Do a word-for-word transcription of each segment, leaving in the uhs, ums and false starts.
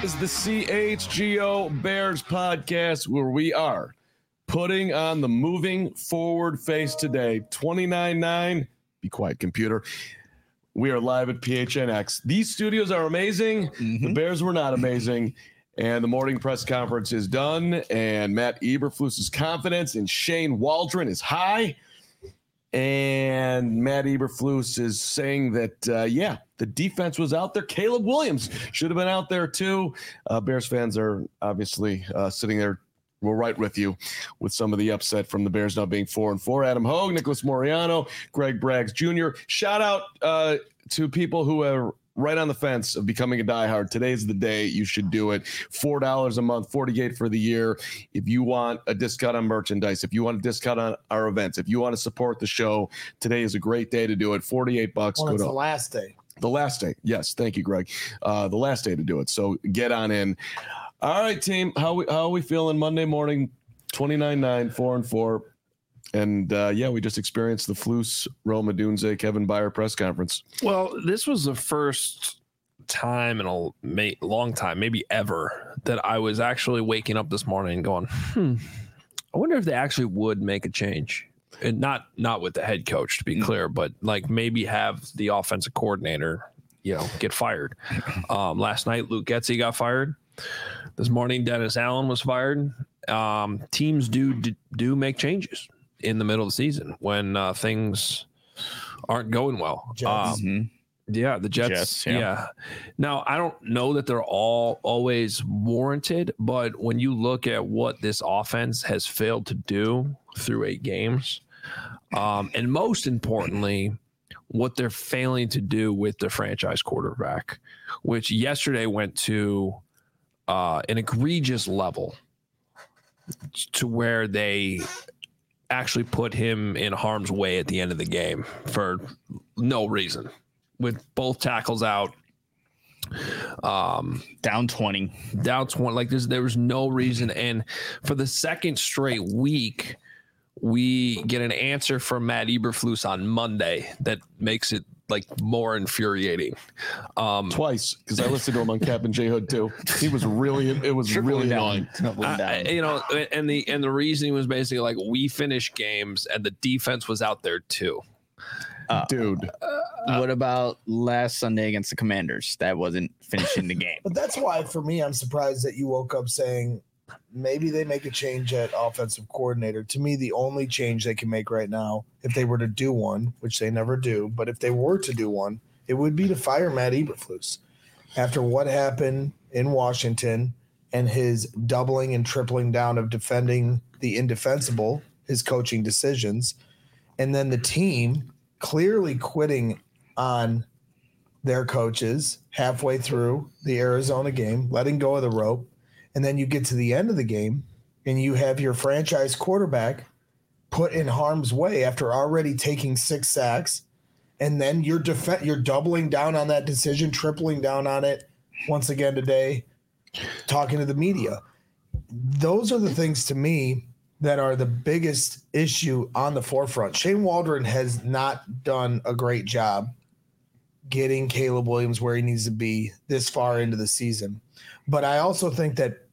is the C H G O Bears podcast, where we are putting on the moving forward face today. twenty-nine nine. Be quiet, computer. We are live at P H N X. These studios are amazing. Mm-hmm. The Bears were not amazing. And the morning press conference is done. And Matt Eberflus's confidence in Shane Waldron is high. And Matt Eberflus is saying that, uh, yeah, the defense was out there. Caleb Williams should have been out there too. Uh, Bears fans are obviously uh, sitting there. We're right with you with some of the upset from the Bears now being four and four. Adam Hogue, Nicholas Moriano, Greg Braggs Junior Shout out uh, to people who are right on the fence of becoming a diehard. Today's the day you should do it. four dollars a month, forty-eight dollars for the year. If you want a discount on merchandise, if you want a discount on our events, if you want to support the show, today is a great day to do it. forty-eight bucks. Well, Go it's to, the last day. The last day. Yes. Thank you, Greg. Uh, the last day to do it. So get on in. All right, team. How we how are we feeling Monday morning? twenty-nine nine, four and four. And uh, yeah, we just experienced the Flus, Rome Odunze, Kevin Byard press conference. Well, this was the first time in a may, long time, maybe ever, that I was actually waking up this morning and going, hmm, I wonder if they actually would make a change. And not not with the head coach, to be mm-hmm. clear, but like maybe have the offensive coordinator, you know, get fired. Um, last night, Luke Getsy got fired. This morning, Dennis Allen was fired. Um, teams do, do do make changes in the middle of the season when uh, things aren't going well. Jets. Um, Mm-hmm. Yeah, the Jets. Jets yeah. yeah. Now, I don't know that they're all always warranted, but when you look at what this offense has failed to do through eight games, um, and most importantly, what they're failing to do with their franchise quarterback, which yesterday went to uh, an egregious level to where they actually put him in harm's way at the end of the game for no reason. With both tackles out, um, down twenty, down twenty, like this, there was no reason. And for the second straight week, we get an answer from Matt Eberflus on Monday that makes it like more infuriating. Um, Twice, because I listened to him on Cap and J Hood too. He was really, it was really annoying. I, you know, and the and the reasoning was basically like we finished games and the defense was out there too. Uh, Dude, uh, what about last Sunday against the Commanders? That wasn't finishing the game. But that's why, for me, I'm surprised that you woke up saying maybe they make a change at offensive coordinator. To me, the only change they can make right now, if they were to do one, which they never do, but if they were to do one, it would be to fire Matt Eberflus. After what happened in Washington and his doubling and tripling down of defending the indefensible, his coaching decisions, and then the team clearly quitting on their coaches halfway through the Arizona game, letting go of the rope. And then you get to the end of the game and you have your franchise quarterback put in harm's way after already taking six sacks. And then you're def- you're doubling down on that decision, tripling down on it once again today, talking to the media. Those are the things to me that are the biggest issue on the forefront. Shane Waldron has not done a great job getting Caleb Williams where he needs to be this far into the season. But I also think that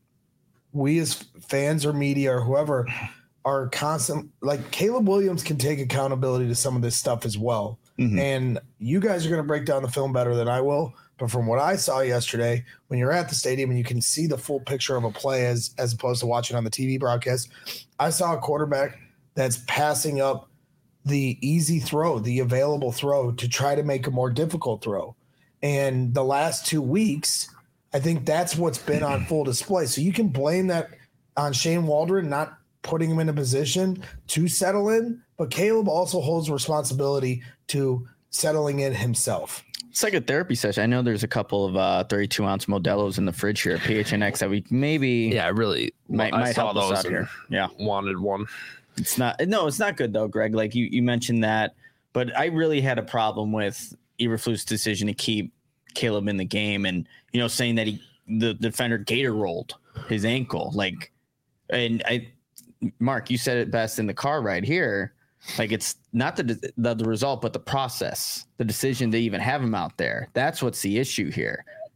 we as fans or media or whoever are constant, like Caleb Williams can take accountability to some of this stuff as well. Mm-hmm. And you guys are going to break down the film better than I will. But from what I saw yesterday, when you're at the stadium and you can see the full picture of a play as, as opposed to watching on the T V broadcast, I saw a quarterback that's passing up the easy throw, the available throw to try to make a more difficult throw. And the last two weeks, I think that's what's been on full display. So you can blame that on Shane Waldron not putting him in a position to settle in, but Caleb also holds responsibility to settling in himself. It's like a therapy session. I know there's a couple of uh, thirty-two ounce Modelo's in the fridge here at P H N X that we maybe yeah, really might, I might saw help those us out here. Yeah, wanted one. It's not no, it's not good though, Greg. Like you, you mentioned that, but I really had a problem with Eberflus' decision to keep Caleb in the game, and you know, saying that he the defender gator rolled his ankle, like, and I, Mark, you said it best in the car ride here. Like it's not the, the the result, but the process, the decision to even have him out there. That's what's the issue here.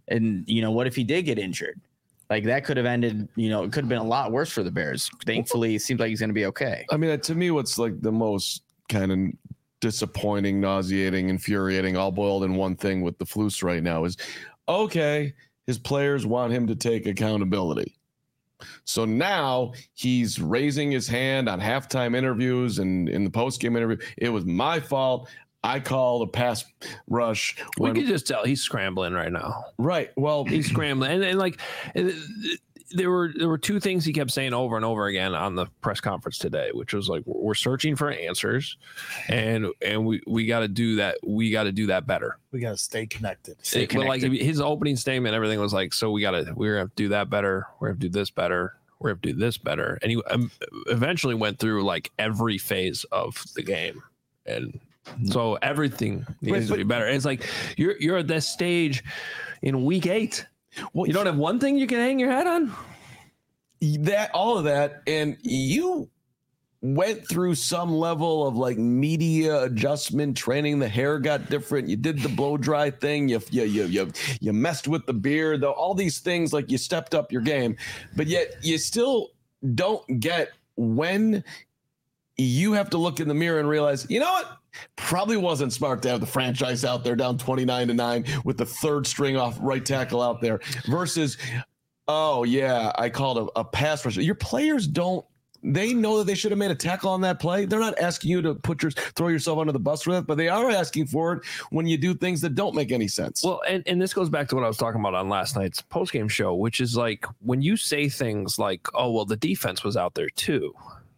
And, you know, what if he did get injured? Like that could have ended, you know, it could have been a lot worse for the Bears. Thankfully, it seems like he's going to be okay. I mean, to me, what's like the most kind of disappointing, nauseating, infuriating, all boiled in one thing with the Flus right now is, okay, his players want him to take accountability. So now he's raising his hand on halftime interviews and in the postgame interview. It was my fault. I called a pass rush. We when, could just tell he's scrambling right now. Right. Well, he's scrambling. And, and like there were there were two things he kept saying over and over again on the press conference today, which was like, we're searching for answers and and we, we got to do that. We got to do that better. We got to stay connected. Stay it, connected. But like his opening statement, everything was like, so we got to we're going to do that better. We're going to do this better. We're going to do this better. And he um, eventually went through like every phase of the game. And so everything needs but, to be better. And it's like you're you're at this stage in week eight. Well, you don't have one thing you can hang your hat on. That all of that, and you went through some level of like media adjustment training. The hair got different. You did the blow dry thing. You you you you, you messed with the beard. Though all these things, like you stepped up your game, but yet you still don't get when you have to look in the mirror and realize, you know what? Probably wasn't smart to have the franchise out there down twenty-nine to nine with the third string off right tackle out there versus, oh, yeah, I called a, a pass rush. Your players don't, they know that they should have made a tackle on that play. They're not asking you to put your, throw yourself under the bus for that, but they are asking for it when you do things that don't make any sense. Well, and, and this goes back to what I was talking about on last night's postgame show, which is like when you say things like, oh, well, the defense was out there too.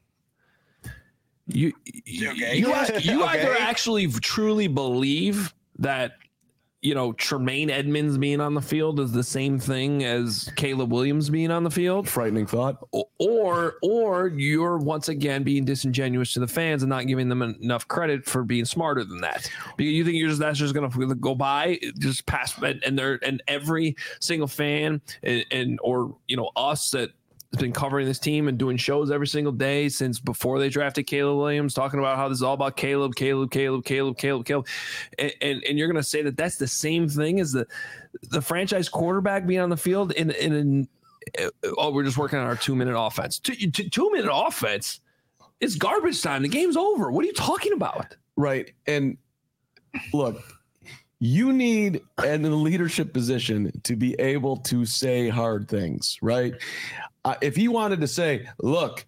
You you, okay. you, you okay. either actually truly believe that, you know, Tremaine Edmonds being on the field is the same thing as Caleb Williams being on the field. Frightening thought. Or or you're once again being disingenuous to the fans and not giving them enough credit for being smarter than that. Because you think you're just that's just going to go by, just pass, and they're and every single fan and, and or you know us that has been covering this team and doing shows every single day since before they drafted Caleb Williams, talking about how this is all about Caleb, Caleb, Caleb, Caleb, Caleb, Caleb. And, and, and you're going to say that that's the same thing as the the franchise quarterback being on the field in, in an, oh, we're just working on our two-minute offense. Two, two, two-minute offense? It's garbage time. The game's over. What are you talking about? Right. And look, you need in the leadership position to be able to say hard things, right? Uh, if he wanted to say, look,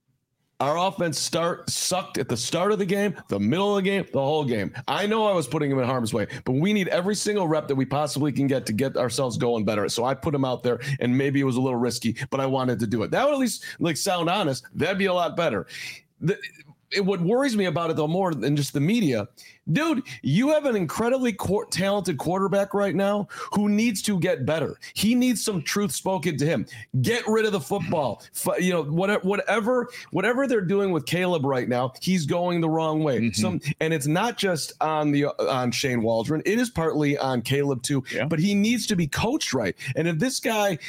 our offense start sucked at the start of the game, the middle of the game, the whole game. I know I was putting him in harm's way, but we need every single rep that we possibly can get to get ourselves going better. So I put him out there, and maybe it was a little risky, but I wanted to do it. That would at least like sound honest. That'd be a lot better. The, it, what worries me about it, though, more than just the media, dude, you have an incredibly qu- talented quarterback right now who needs to get better. He needs some truth spoken to him. Get rid of the football. F- you know, whatever, whatever, whatever they're doing with Caleb right now, he's going the wrong way. Mm-hmm. Some, and it's not just on the on Shane Waldron. It is partly on Caleb too. Yeah. But he needs to be coached right. And if this guy,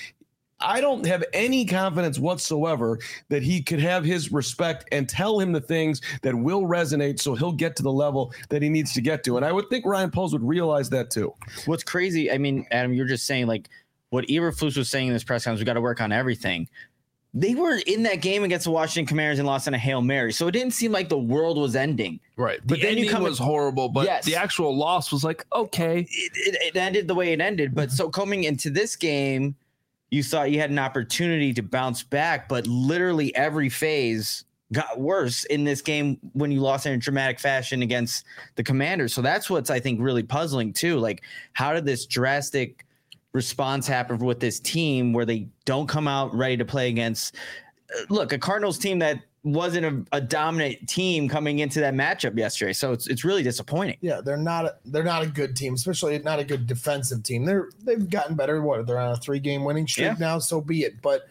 I don't have any confidence whatsoever that he could have his respect and tell him the things that will resonate so he'll get to the level that he needs to get to. And I would think Ryan Poles would realize that too. What's crazy, I mean, Adam, you're just saying like what Eberflus was saying in this press conference, we got to work on everything. They were in that game against the Washington Commanders and lost on a Hail Mary. So it didn't seem like the world was ending. Right. But the then you come was in, horrible, but yes. the actual loss was like, okay. It, it, it ended the way it ended. But so coming into this game, you thought you had an opportunity to bounce back, but literally every phase got worse in this game when you lost in a dramatic fashion against the Commanders. So that's what's, I think, really puzzling too. Like, how did this drastic response happen with this team where they don't come out ready to play against, look, a Cardinals team that wasn't a, a dominant team coming into that matchup yesterday. So it's it's really disappointing. Yeah, they're not a, they're not a good team, especially not a good defensive team. They're they've gotten better. What, they're on a three game winning streak yeah. now, so be it. But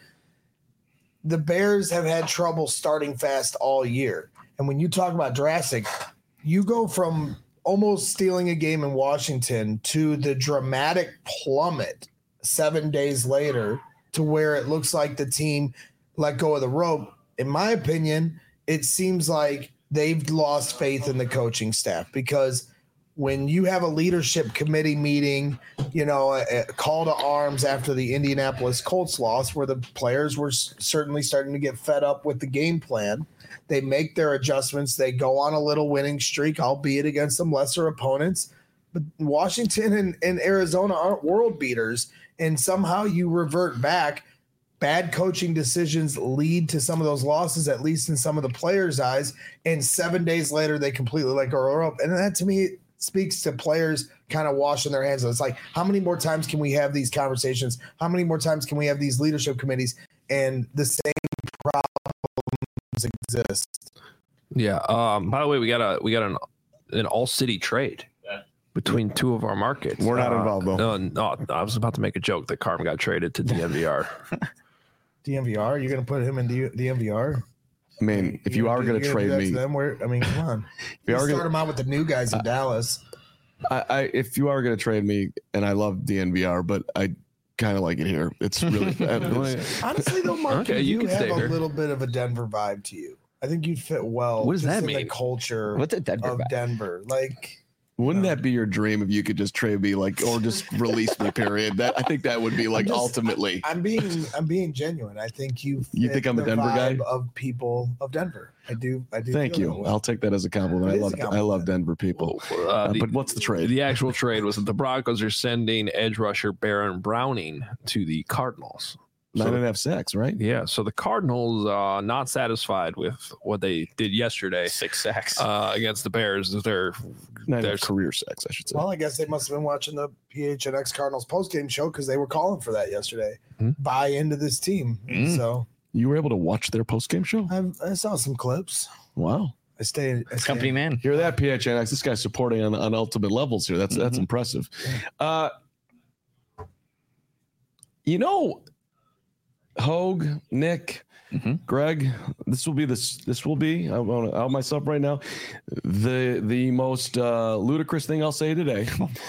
the Bears have had trouble starting fast all year. And when you talk about drastic, you go from almost stealing a game in Washington to the dramatic plummet seven days later to where it looks like the team let go of the rope. In my opinion, it seems like they've lost faith in the coaching staff because when you have a leadership committee meeting, you know, a, a call to arms after the Indianapolis Colts loss, where the players were s- certainly starting to get fed up with the game plan. They make their adjustments. They go on a little winning streak, albeit against some lesser opponents. But Washington and, and Arizona aren't world beaters, and somehow you revert back. Bad coaching decisions lead to some of those losses, at least in some of the players' eyes. And seven days later, they completely let go up. And that, to me, speaks to players kind of washing their hands. It's like, how many more times can we have these conversations? How many more times can we have these leadership committees? And the same problems exist. Yeah. Um, by the way, we got a we got an an all city trade between two of our markets. We're not uh, involved though. No, no, I was about to make a joke that Carm got traded to D N V R. D M V R, you're going to put him in D- DMVR? I mean, if you are going to trade me, them, where, I mean, come on. if you You are start gonna, them out with the new guys in uh, Dallas. I, I, if you are going to trade me, and I love D N V R, but I kind of like it here. It's really it's, honestly though, Mark, okay, you, you can have stay a here. little bit of a Denver vibe to you. I think you'd fit well. What does just that in mean? The culture What's a Denver of vibe? Denver, like. wouldn't that be your dream if you could just trade me, like, or just release me? Period. That I think that would be like just, ultimately. I'm being, I'm being genuine. I think you. You think I'm a Denver guy? Of people of Denver, I do. I do. Thank you. I'll take that as a compliment. It I is love, a compliment. I love Denver people. Uh, Uh, the, but what's the trade? the actual trade was that the Broncos are sending edge rusher Baron Browning to the Cardinals. Nine So- and a half sacks, right? Yeah, so the Cardinals uh not satisfied with what they did yesterday Six sacks. uh, against the Bears. They're Nine and a There's- half career sacks, I should say. Well, I guess they must have been watching the P H N X Cardinals postgame show because they were calling for that yesterday. Hmm. Buy into this team. Hmm. So You were able to watch their post game show? I, I saw some clips. Wow. I stayed. I stayed Company man. Hear that, P H N X? This guy's supporting on, on ultimate levels here. That's that's Mhm. impressive. Uh, you know, Hogue, Nick, Mhm. Greg, this will be this. This will be. I want to out myself right now. The the most uh, ludicrous thing I'll say today.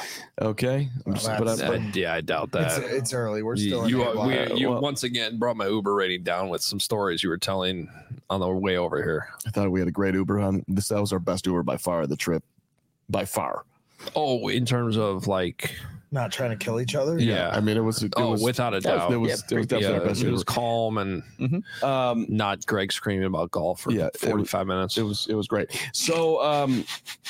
Okay, I'm just, but, that's- I, uh, yeah, I doubt It's, that. it's early. We're You, still. you, in are- we, April. you Well- once again brought my Uber rating down with some stories you were telling on the way over here. I thought we had a great Uber on this. That was our best Uber by far. The trip, by far. Oh, in terms of like, Not trying to kill each other. yeah, I mean, it was. It oh, was without a that was- doubt, It was, Yeah, it was definitely yeah, our best it Uber. was calm and Um, not Greg screaming about golf for Yeah, it was- forty-five minutes. it was it was great. So um,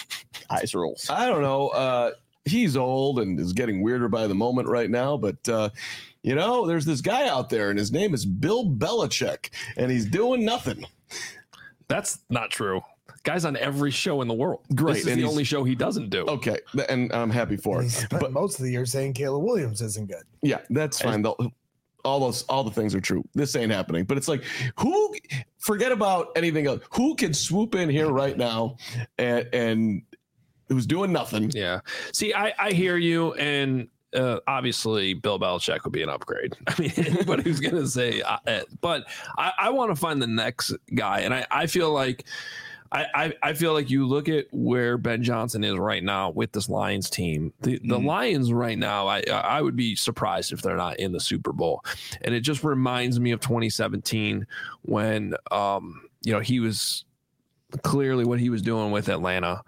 Eyes rolls. I don't know. Uh, he's old and is getting weirder by the moment right now, but uh, you know, there's this guy out there, and his name is Bill Belichick, and he's doing nothing. That's not true. Guy's on every show in the world. Great, This is and the he's- only show he doesn't do. Okay, and I'm happy for And he it. spent But most of the year saying Caleb Williams isn't good. yeah, that's fine. They'll- all those all the things are true. This ain't happening. But it's like, who? Forget about anything else. Who can swoop in here right now and and who's doing nothing? Yeah. See, I, I hear you, and uh, obviously Bill Belichick would be an upgrade. I mean, anybody who's going to say, uh, uh, but I, I want to find the next guy, and I, I feel like. I, I, I feel like you look at where Ben Johnson is right now with this Lions team. The the Mhm. Lions right now, I I would be surprised if they're not in the Super Bowl. And it just reminds me of twenty seventeen when um you know he was clearly what he was doing with Atlanta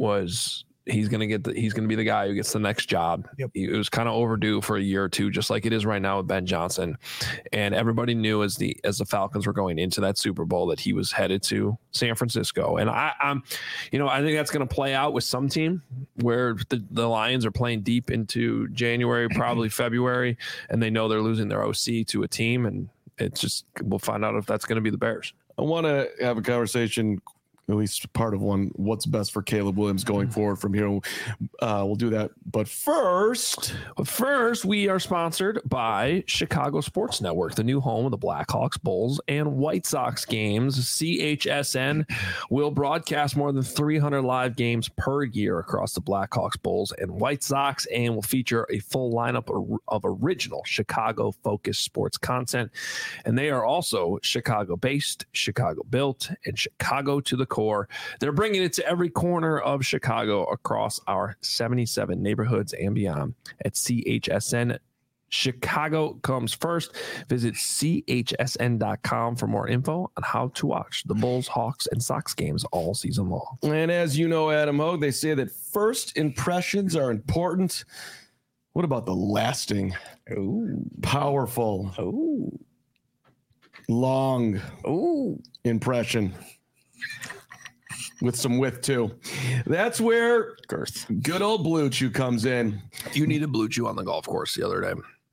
was he's gonna get the he's gonna be the guy who gets the next job. Yep. It was kind of overdue for a year or two, just like it is right now with Ben Johnson. And everybody knew as the as the Falcons were going into that Super Bowl that he was headed to San Francisco. And I, I'm, you know, I think that's going to play out with some team where the, the Lions are playing deep into January, probably February, and they know they're losing their O C to a team, and it's just we'll find out if that's going to be the Bears. I want to have a conversation, at least part of one, what's best for Caleb Williams going forward from here. Uh, we'll do that. But first, But first, we are sponsored by Chicago Sports Network, the new home of the Blackhawks, Bulls, and White Sox games. C H S N will broadcast more than three hundred live games per year across the Blackhawks, Bulls, and White Sox, and will feature a full lineup of, of original Chicago-focused sports content. And they are also Chicago-based, Chicago-built, and Chicago to the core. They're bringing it to every corner of Chicago across our seventy-seven neighborhoods and beyond at C H S N Chicago comes first. Visit C H S N dot com for more info on how to watch the Bulls, Hawks, and Sox games all season long. And as you know, Adam Hogue, they say that first impressions are important. What about the lasting, Ooh. powerful, Ooh. long Ooh. impression? With some width, too. That's where Girth. good old Blue Chew comes in. You needed Blue Chew on the golf course the other day.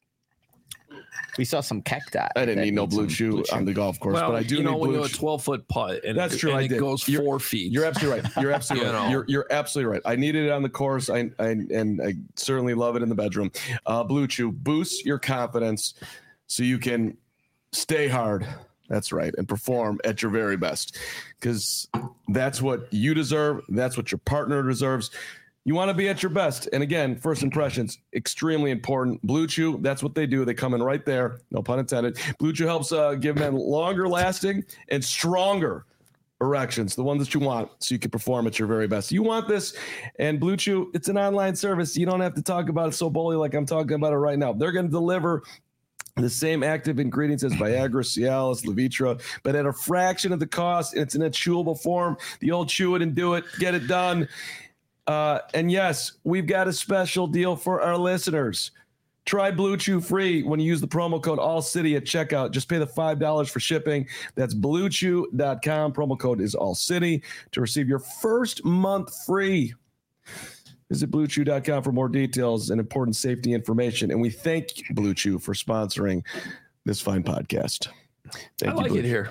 We saw some cacti. I didn't that need no need Blue some Chew Blue Chew. on the golf course, Well, but I do you know need when Blue you have a Chew. twelve-foot putt and, That's true, and I it did. goes You're- four feet. You're absolutely right. You're absolutely You right. know. You're, you're absolutely right. I needed it on the course, I, I and I certainly love it in the bedroom. Uh, Blue Chew boosts your confidence so you can stay hard. That's right, and perform at your very best, because that's what you deserve. That's what your partner deserves. You want to be at your best. And again, first impressions, extremely important. Blue Chew, that's what they do. They come in right there. No pun intended. Blue Chew helps uh, give men longer lasting and stronger erections, the ones that you want, so you can perform at your very best. You want this, and Blue Chew, it's an online service. You don't have to talk about it so boldly like I'm talking about it right now. They're going to deliver the same active ingredients as Viagra, Cialis, Levitra, but at a fraction of the cost. It's in a chewable form. The old chew it and do it, get it done. Uh, and yes, we've got a special deal for our listeners. Try Blue Chew free when you use the promo code ALLCITY at checkout. Just pay the five dollars for shipping. That's blue chew dot com. Promo code is ALLCITY to receive your first month free. Visit blue chew dot com for more details and important safety information. And we thank Blue Chew for sponsoring this fine podcast. Thank I you, like Blue it Chew. here.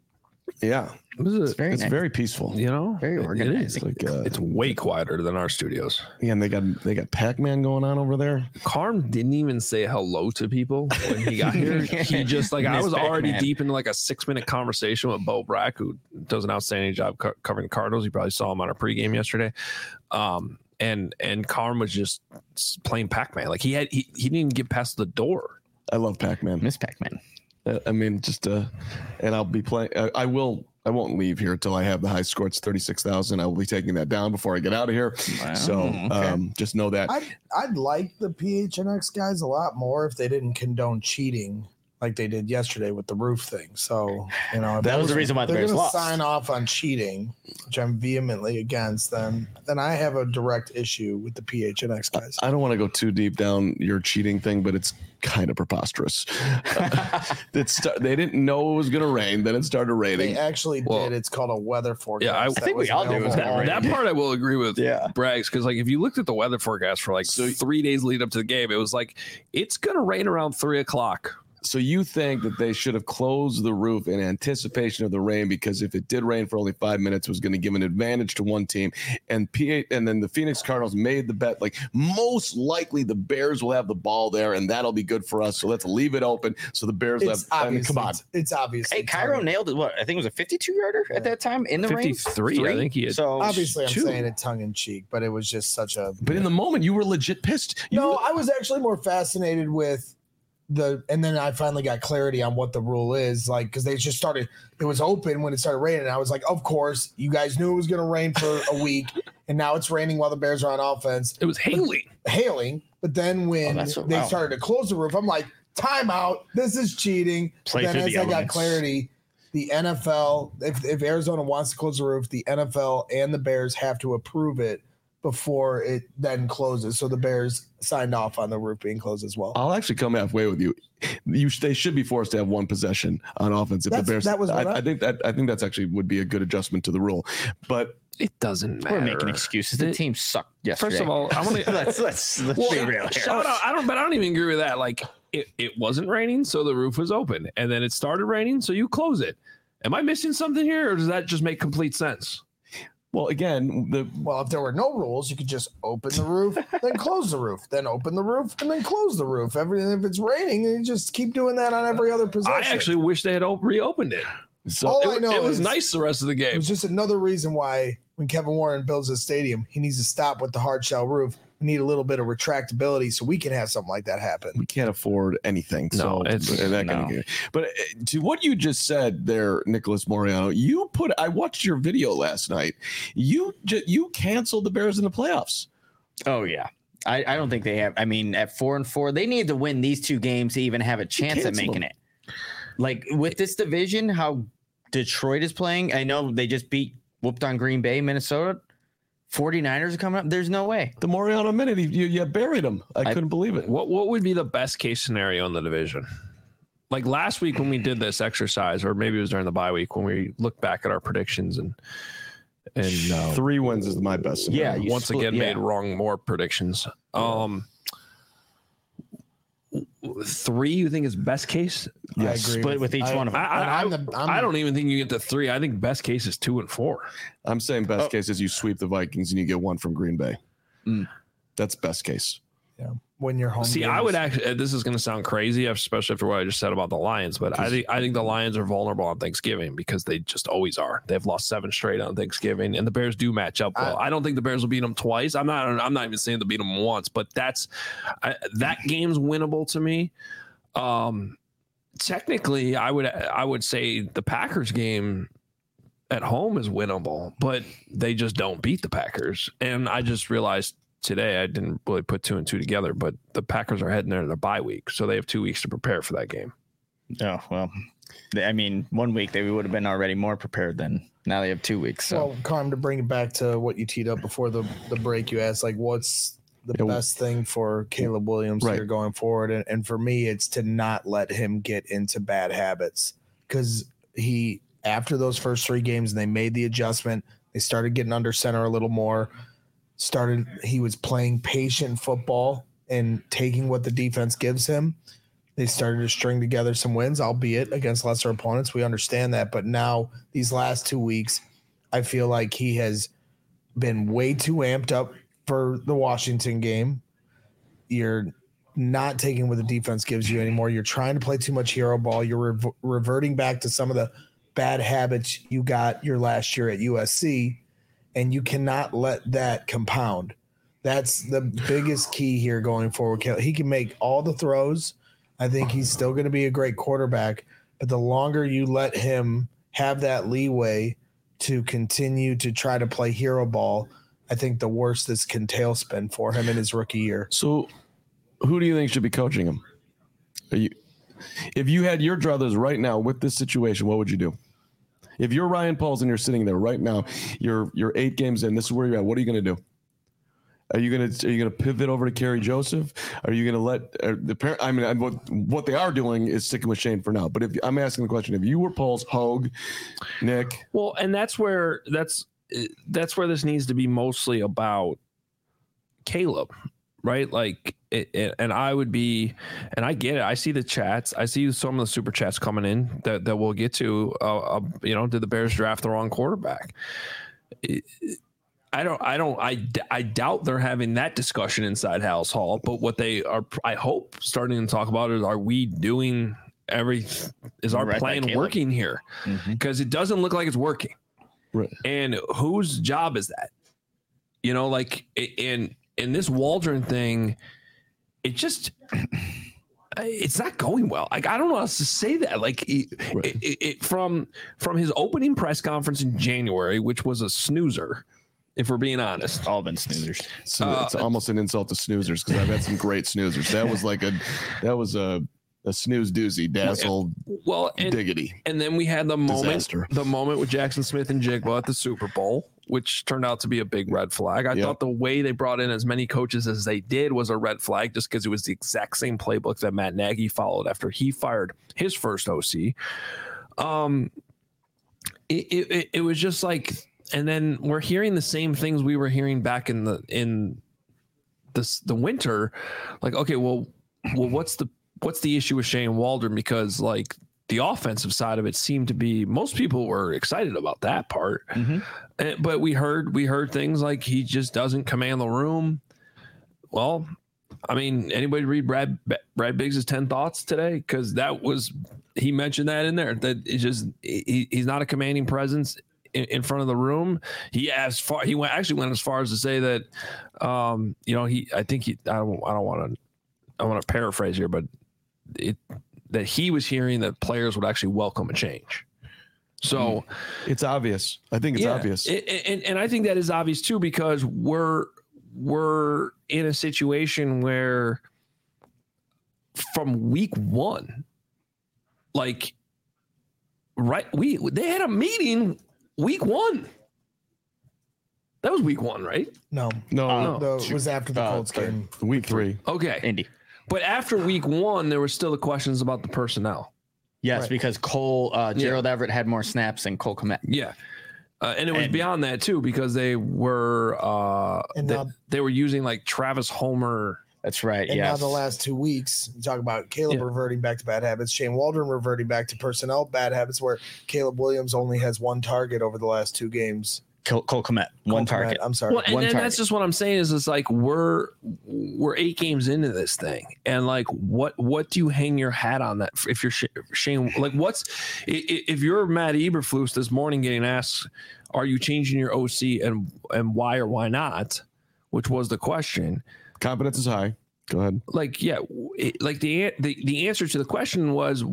Yeah, This is It's very it's nice. very peaceful. You know, Very It organized. is. Like, uh, It's way quieter than our studios. yeah, and they got they got Pac-Man going on over there. Carm didn't even say hello to people when he got here. He just like I Miss was already Pac-Man. deep into like a six minute conversation with Bo Brack, who does an outstanding job co- covering the Cardinals. You probably saw him on our pregame yesterday. Um, and and Carm was just s- playing Pac-Man. Like he had he, he didn't even get past the door. I love Pac-Man. Miss Pac-Man. Uh, I mean, just uh, and I'll be playing. Uh, I will. I won't leave here until I have the high score. It's thirty-six thousand. I will be taking that down before I get out of here. Wow, So okay. um, just know that. I'd, I'd like the P H N X guys a lot more if they didn't condone cheating like they did yesterday with the roof thing. So, you know, if That was the reason why the they're Bears going to lost. sign off on cheating, which I'm vehemently against, then then I have a direct issue with the P H N X guys. I don't want to go too deep down your cheating thing, but it's kind of preposterous. it's they didn't know it was going to rain. Then it started raining. They actually Well, did. It's called a weather forecast. yeah, I- I that think we was all do. available That- all That day. part I will agree with Yeah. Braggs, because like if you looked at the weather forecast for like So- three days lead up to the game, it was like it's gonna rain around three o'clock. So you think that they should have closed the roof in anticipation of the rain, because if it did rain for only five minutes, it was going to give an advantage to one team. And P eight, and then the Phoenix Cardinals made the bet, like most likely the Bears will have the ball there, and that'll be good for us. So let's leave it open so the Bears It's have. I mean, come on, obvious. It's obvious. Hey, Cairo nailed it. What I think it was a fifty-two yarder Yeah. at that time in the rain. fifty-three, I think he had. So Obviously, I'm two. saying it tongue in cheek, but it was just such a. but in the moment you were legit pissed. You No, were- I was actually more fascinated with the, and then I finally got clarity on what the rule is, like because they just started. It was open when it started raining. And I was like, of course, you guys knew it was going to rain for a week, and now it's raining while the Bears are on offense, It was hailing. hailing. But then when Oh, that's what- they wow. started to close the roof, I'm like, timeout. This is cheating. Play then through as the I got elements. clarity, the N F L, if if Arizona wants to close the roof, the N F L and the Bears have to approve it before it then closes. So the Bears signed off on the roof being closed as well. I'll actually come halfway with you. You they should be forced to have one possession on offense if That's- the Bears. that was what I, I- I think that I think that's actually would be a good adjustment to the rule. But It doesn't matter. we're making excuses. The The- team sucked yesterday. First of all, I want to let's let's let's Well, be real here. shout out. I don't, but I don't even agree with that. Like it, it wasn't raining, so the roof was open, and then it started raining, so you close it. Am I missing something here, or does that just make complete sense? well, again, the Well, if there were no rules, you could just open the roof, then close the roof, then open the roof, and then close the roof. Every if it's raining, you just keep doing that on every other possession. I actually wish they had op- reopened it. so All It, I know it was is nice the rest of the it game. was just another reason why when Kevin Warren builds a stadium, he needs to stop with the hard shell roof. We need a little bit of retractability so we can have something like that happen. we can't afford anything. No, so it's- and that kind no. of game. But uh, to what you just said there, Nicholas Moriano, you put. I watched your video last night. You ju- you canceled the Bears in the playoffs. Oh yeah, I, I don't think they have. I mean, at four and four, they need to win these two games to even have a chance at making them. it. Like with this division, how Detroit is playing, I know they just beat, whooped on Green Bay, Minnesota. forty-niners are coming up. There's no way. The Mariano minute, you, you buried him. I, I couldn't believe it. What What would be the best case scenario in the division? Like last week when we did this exercise, or maybe it was during the bye week when we looked back at our predictions and and uh, three wins is my best scenario. Yeah, once split, again yeah. made wrong more predictions. Um, three, you think is best case? Yes, I agree split with, with each I, one of them. I, I, I, the, I don't even think you get to three. I think best case is two and four. I'm saying best oh. case is you sweep the Vikings and you get one from Green Bay. Mm. That's best case. Yeah. When you're home. See, games. I would actually, this is going to sound crazy, especially after what I just said about the Lions, but I think I think the Lions are vulnerable on Thanksgiving because they just always are. They've lost seven straight on Thanksgiving, and the Bears do match up well. I, I don't think the Bears will beat them twice. I'm not. I'm not even saying to beat them once, but that's I, that game's winnable to me. Um, technically, I would I would say the Packers game at home is winnable, but they just don't beat the Packers, and I just realized today I didn't really put two and two together, but the Packers are heading there to their bye week, so they have two weeks to prepare for that game. Oh, well, I mean, one week they would have been already more prepared than now they have two weeks. So, well, Carm, to bring it back to what you teed up before the, the break, you asked, like, what's the yeah, best thing for Caleb Williams right. here going forward? And, and for me, it's to not let him get into bad habits because he, after those first three games, and they made the adjustment, they started getting under center a little more. Started, he was playing patient football and taking what the defense gives him. They started to string together some wins, albeit against lesser opponents. We understand that. But now these last two weeks, I feel like he has been way too amped up for the Washington game. You're not taking what the defense gives you anymore. You're trying to play too much hero ball. You're re- reverting back to some of the bad habits you got your last year at U S C. And you cannot let that compound. That's the biggest key here going forward. He can make all the throws. I think he's still going to be a great quarterback. But the longer you let him have that leeway to continue to try to play hero ball, I think the worse this can tailspin for him in his rookie year. So who do you think should be coaching him? Are you, if you had your druthers right now with this situation, what would you do? If you're Ryan Pauls and you're sitting there right now, you're you're eight games in. This is where you're at. What are you going to do? Are you going to are you going to pivot over to Kerry Joseph? Are you going to let uh, the parent? I mean, what what they are doing is sticking with Shane for now. But if I'm asking the question, if you were Pauls, Hogue, Nick, well, and that's where that's that's where this needs to be mostly about Caleb, right? Like, it, it, and I would be, and I get it. I see the chats. I see some of the super chats coming in that, that we'll get to. Uh, uh, you know, did the Bears draft the wrong quarterback? It, I don't, I don't, I, I doubt they're having that discussion inside House Hall. But what they are, I hope, starting to talk about is, are we doing every? Is our right plan working here? Because mm-hmm. it doesn't look like it's working. Right. And whose job is that? You know, like, and in this Waldron thing, it just, it's not going well. Like, I don't know how else to say that. Like, it, right. it, it, it, from from his opening press conference in January, which was a snoozer, if we're being honest. All been snoozers. So uh, it's almost an insult to snoozers because I've had some great snoozers. That was like a, that was a, a snooze doozy, dazzle, well, and, diggity. And then we had the moment, Disaster. the moment with Jackson Smith and Jigba at the Super Bowl, which turned out to be a big red flag. I yep. thought the way they brought in as many coaches as they did was a red flag, just because it was the exact same playbook that Matt Nagy followed after he fired his first O C. Um, it, it, it was just like, and then we're hearing the same things we were hearing back in the in this the winter. Like, okay, well, well, what's the what's the issue with Shane Waldron? Because like the offensive side of it seemed to be, most people were excited about that part, mm-hmm. and, but we heard we heard things like he just doesn't command the room. Well, I mean, anybody read Brad Brad Biggs' ten thoughts today? Because that was, he mentioned that in there, that it's just he, he's not a commanding presence in, in front of the room. He as far he went actually went as far as to say that, um, you know, he I think he I don't I don't want to I want to paraphrase here, but it that he was hearing that players would actually welcome a change. So it's obvious. I think it's yeah, obvious. It, and, and I think that is obvious too, because we're, we're in a situation where from week one, like, right, we they had a meeting week one. That was week one, right? No, No, uh, no. no, it was after the Uh, Colts game. Week three. Okay. Indy. But after week one, there were still the questions about the personnel. Yes, Right. because Cole uh, Gerald Everett had more snaps than Cole Kmet. Yeah. Uh, and it was And- beyond that too, because they were uh, And they, now- they were using like Travis Homer. That's right. And yes. now the last two weeks, you talk about Caleb Yeah. reverting back to bad habits, Shane Waldron reverting back to personnel bad habits, where Caleb Williams only has one target over the last two games. Cole, Cole Kmet, one Cole Kmet, target. I'm sorry. Well, and, One and target. that's just what I'm saying is it's like we're we're eight games into this thing, and like what what do you hang your hat on that if you're Sh- Shane? Like what's i- i- if you're Matt Eberflus this morning getting asked, are you changing your O C and and why or why not? Which was the question. Confidence is high. Go ahead. Like yeah, it, like the an- the the answer to the question was,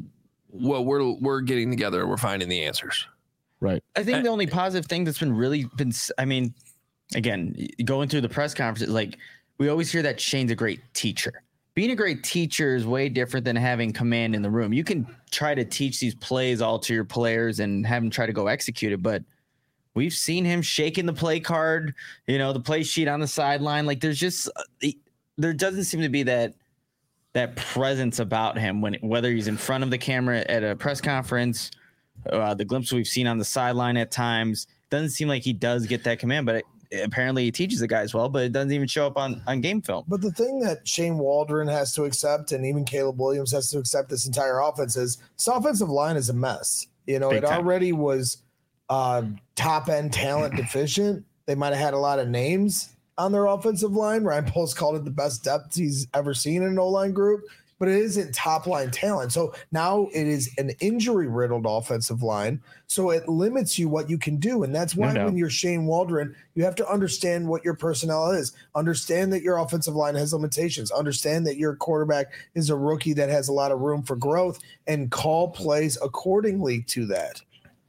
well, we're we're getting together and we're finding the answers. Right. I think the only positive thing that's been really been, s- I mean, again, going through the press conferences, like we always hear that Shane's a great teacher. Being a great teacher is way different than having command in the room. You can try to teach these plays all to your players and have them try to go execute it, but we've seen him shaking the play card, you know, the play sheet on the sideline. Like there's just, there doesn't seem to be that that presence about him when whether he's in front of the camera at a press conference. Uh, the glimpse we've seen on the sideline at times doesn't seem like he does get that command, but it, apparently he teaches the guys well, but it doesn't even show up on, on game film. But the thing that Shane Waldron has to accept, and even Caleb Williams has to accept this entire offense, is this offensive line is a mess. You know, Big it time. already was uh, top end talent deficient. They might have had a lot of names on their offensive line. Ryan Poles called it the best depth he's ever seen in an O-line group, but it isn't top line talent. So now it is an injury riddled offensive line. So it limits you what you can do. And that's why No doubt. when you're Shane Waldron, you have to understand what your personnel is. Understand that your offensive line has limitations. Understand that your quarterback is a rookie that has a lot of room for growth, and call plays accordingly to that.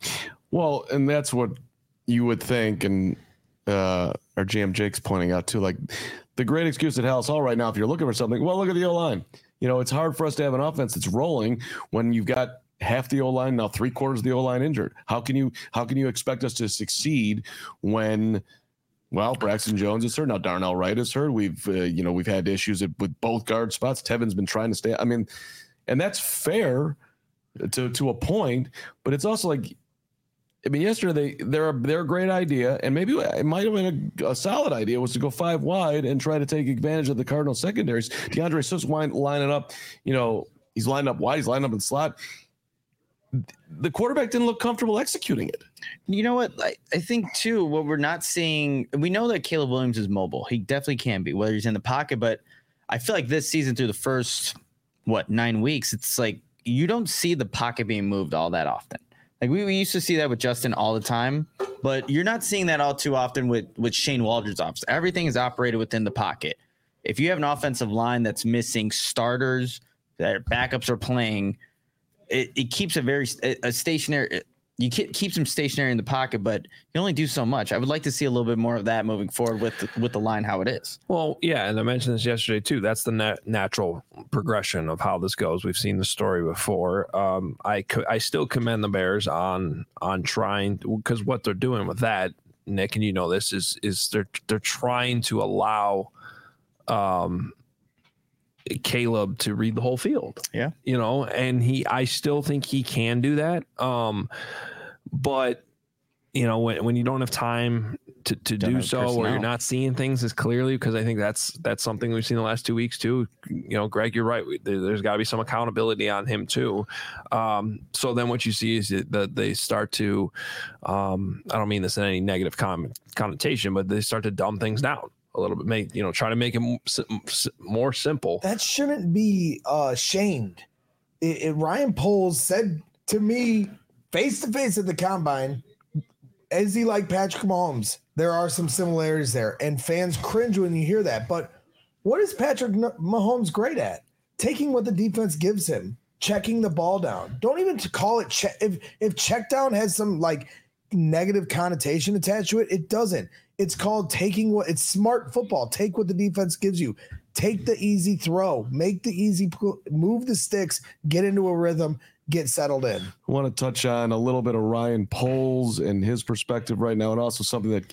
Well, and that's what you would think, and uh, our G M Jake's pointing out too. Like the great excuse at Hallis Hall right now, if you're looking for something, well, look at the O line. You know, it's hard for us to have an offense that's rolling when you've got half the O line, now three quarters of the O line injured. How can you how can you expect us to succeed when, well, Braxton Jones is hurt, now Darnell Wright is hurt. We've uh, you know we've had issues with both guard spots. Tevin's been trying to stay. I mean, and that's fair to to a point, but it's also like. I mean, yesterday they, they're a, they're a great idea, and maybe it might have been a, a solid idea was to go five wide and try to take advantage of the Cardinals secondaries. DeAndre Swift's line, lining up, you know, he's lined up wide, he's lined up in slot. The quarterback didn't look comfortable executing it. You know what? I, I think, too, what we're not seeing, we know that Caleb Williams is mobile. He definitely can be, whether he's in the pocket. But I feel like this season through the first, what, nine weeks, it's like you don't see the pocket being moved all that often. Like we, we used to see that with Justin all the time, but you're not seeing that all too often with, with Shane Waldron's offense. Everything is operated within the pocket. If you have an offensive line that's missing starters, that backups are playing, it, it keeps a very a stationary. You keep keeps them stationary in the pocket, but you only do so much. I would like to see a little bit more of that moving forward with the, with the line how it is. Well, yeah, and I mentioned this yesterday too. That's the nat- natural progression of how this goes. We've seen the story before. Um, I co- I still commend the Bears on on trying because what they're doing with that, Nick, and you know this is is they're they're trying to allow um, Caleb to read the whole field. Yeah, you know, and he I still think he can do that. Um, but you know, when when you don't have time to, to do have so, or personnel. you're not seeing things as clearly, because I think that's that's something we've seen the last two weeks too. You know, Greg, you're right. We, there, there's got to be some accountability on him too. Um, so then what you see is that they start to, um, I don't mean this in any negative con- connotation, but they start to dumb things down a little bit, make you know, try to make it m- s- more simple. That shouldn't be uh, shamed. It, it, Ryan Poles said to me face to face at the combine, is he like Patrick Mahomes? There are some similarities there, and fans cringe when you hear that. But what is Patrick Mahomes great at? Taking what the defense gives him, checking the ball down. Don't even call it check. If if check down has some like negative connotation attached to it, it doesn't. It's called taking what it's smart football. Take what the defense gives you. Take the easy throw, make the easy move the sticks, get into a rhythm, get settled in. I want to touch on a little bit of Ryan Poles and his perspective right now, and also something that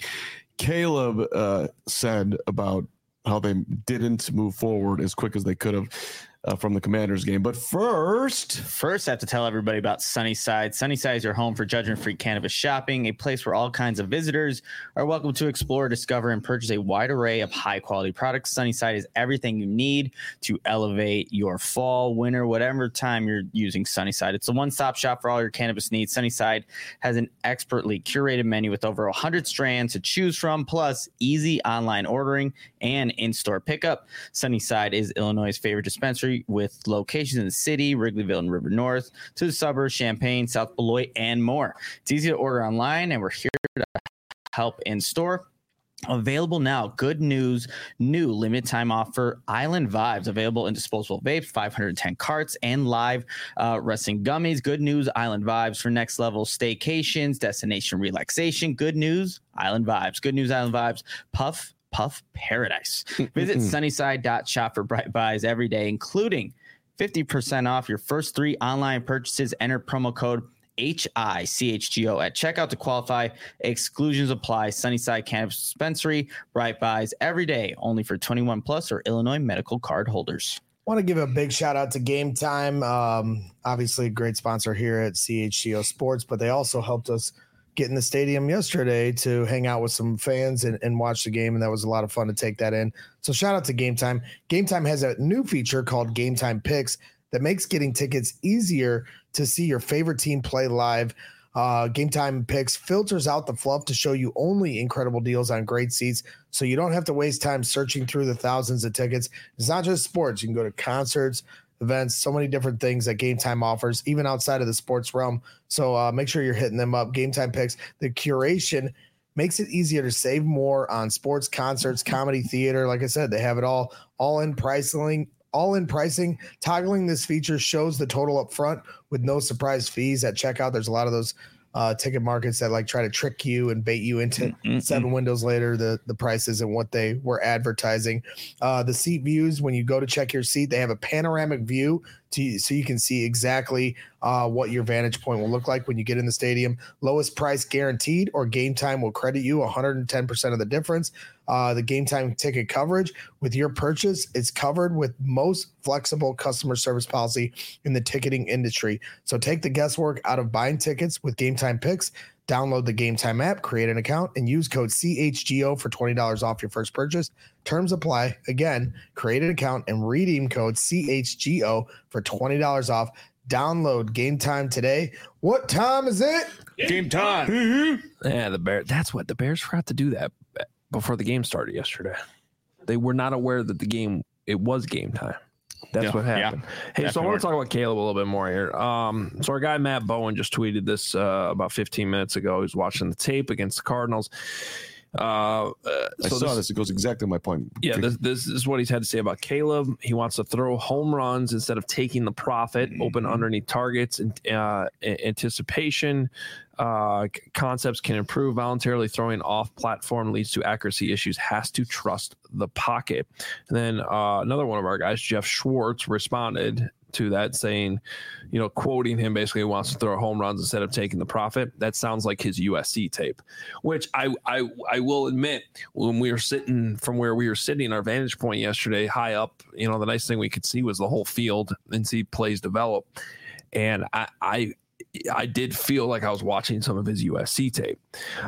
Caleb uh, said about how they didn't move forward as quick as they could have uh, from the Commanders game. But first, first I have to tell everybody about Sunnyside. Sunnyside is your home for judgment-free cannabis shopping, a place where all kinds of visitors are welcome to explore, discover, and purchase a wide array of high-quality products. Sunnyside is everything you need to elevate your fall, winter, whatever time you're using Sunnyside. It's a one-stop shop for all your cannabis needs. Sunnyside has an expertly curated menu with over one hundred strands to choose from, plus easy online ordering and in-store pickup. Sunnyside is Illinois' favorite dispensary with locations in the city, Wrigleyville and River North, to the suburbs, Champaign, South Beloit, and more. It's easy to order online, and we're here to help in store. Available now. Good news. New limited time offer. Island Vibes available in disposable vapes, five hundred ten carts, and live uh, resting gummies. Good news. Island Vibes for next level staycations, destination relaxation. Good news. Island Vibes. Good news. Island Vibes. Puff Puff Paradise. Visit sunnyside dot shop for bright buys every day, including fifty percent off your first three online purchases. Enter promo code H I C H G O at checkout to qualify. Exclusions apply. Sunnyside Cannabis Dispensary. Bright buys every day, only for twenty-one plus or Illinois medical card holders. Want to give a big shout out to Game Time. Um, obviously, a great sponsor here at C H G O Sports, but they also helped us get in the stadium yesterday to hang out with some fans and, and watch the game, and that was a lot of fun to take that in. So shout out to Game Time. Game Time has a new feature called Game Time Picks that makes getting tickets easier to see your favorite team play live. Uh, Game Time Picks filters out the fluff to show you only incredible deals on great seats, so you don't have to waste time searching through the thousands of tickets. It's not just sports. You can go to concerts, events, so many different things that Game Time offers, even outside of the sports realm. So uh, make sure you're hitting them up. Game Time Picks, the curation makes it easier to save more on sports, concerts, comedy, theater. Like I said, they have it all, all in pricing, all in pricing. Toggling this feature shows the total up front with no surprise fees at checkout. There's a lot of those uh, ticket markets that like try to trick you and bait you into mm-hmm. seven windows later, the, the prices and what they were advertising. Uh, the seat views, when you go to check your seat, they have a panoramic view to, so you can see exactly uh, what your vantage point will look like when you get in the stadium. Lowest price guaranteed, or Game Time will credit you one hundred ten percent of the difference. Uh, the Game Time ticket coverage with your purchase is covered with most flexible customer service policy in the ticketing industry. So take the guesswork out of buying tickets with Game Time Picks. Download the Game Time app, create an account, and use code C H G O for twenty dollars off your first purchase. Terms apply. Again, create an account and redeem code C H G O for twenty dollars off. Download Game Time today. What time is it? Game time. Yeah, the Bears. That's what the Bears forgot to do that before the game started yesterday. They were not aware that the game, it was game time. That's yeah, what happened. Yeah, hey, definitely. So I want to talk about Caleb a little bit more here. Um, so our guy Matt Bowen just tweeted this uh, about fifteen minutes ago. He was watching the tape against the Cardinals. Uh, uh, I so saw this, this. It goes exactly my point. Yeah, this, this is what he's had to say about Caleb. He wants to throw home runs instead of taking the profit, mm-hmm. open underneath targets, and uh, anticipation. Uh, concepts can improve. Voluntarily throwing off platform leads to accuracy issues. Has to trust the pocket. And then uh, another one of our guys, Jeff Schwartz, responded to that saying, you know, quoting him, basically wants to throw home runs instead of taking the profit. That sounds like his U S C tape, which I I I will admit, when we were sitting from where we were sitting, our vantage point yesterday, high up, you know, the nice thing we could see was the whole field and see plays develop. And I I I did feel like I was watching some of his U S C tape.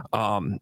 Um,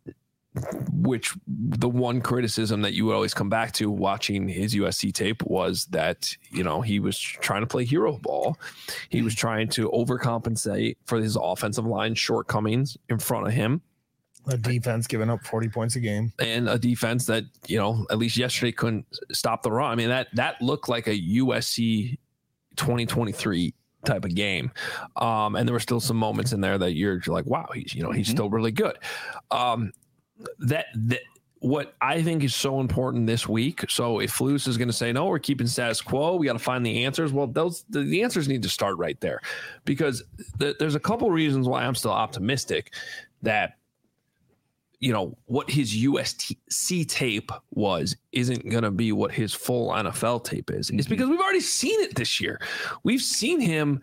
which the one criticism that you would always come back to watching his U S C tape was that, you know, he was trying to play hero ball. He was trying to overcompensate for his offensive line shortcomings in front of him. A defense giving up forty points a game. And a defense that, you know, at least yesterday couldn't stop the run. I mean, that that looked like a U S C twenty twenty-three type of game. Um, and there were still some moments in there that you're, you're like, wow, he's, you know, he's mm-hmm. still really good. Um, That, that what I think is so important this week. So if Flus is going to say, no, we're keeping status quo, we got to find the answers. Well, those the, the answers need to start right there, because th- there's a couple reasons why I'm still optimistic that you know, what his U S C tape was isn't going to be what his full N F L tape is. Mm-hmm. It's because we've already seen it this year. We've seen him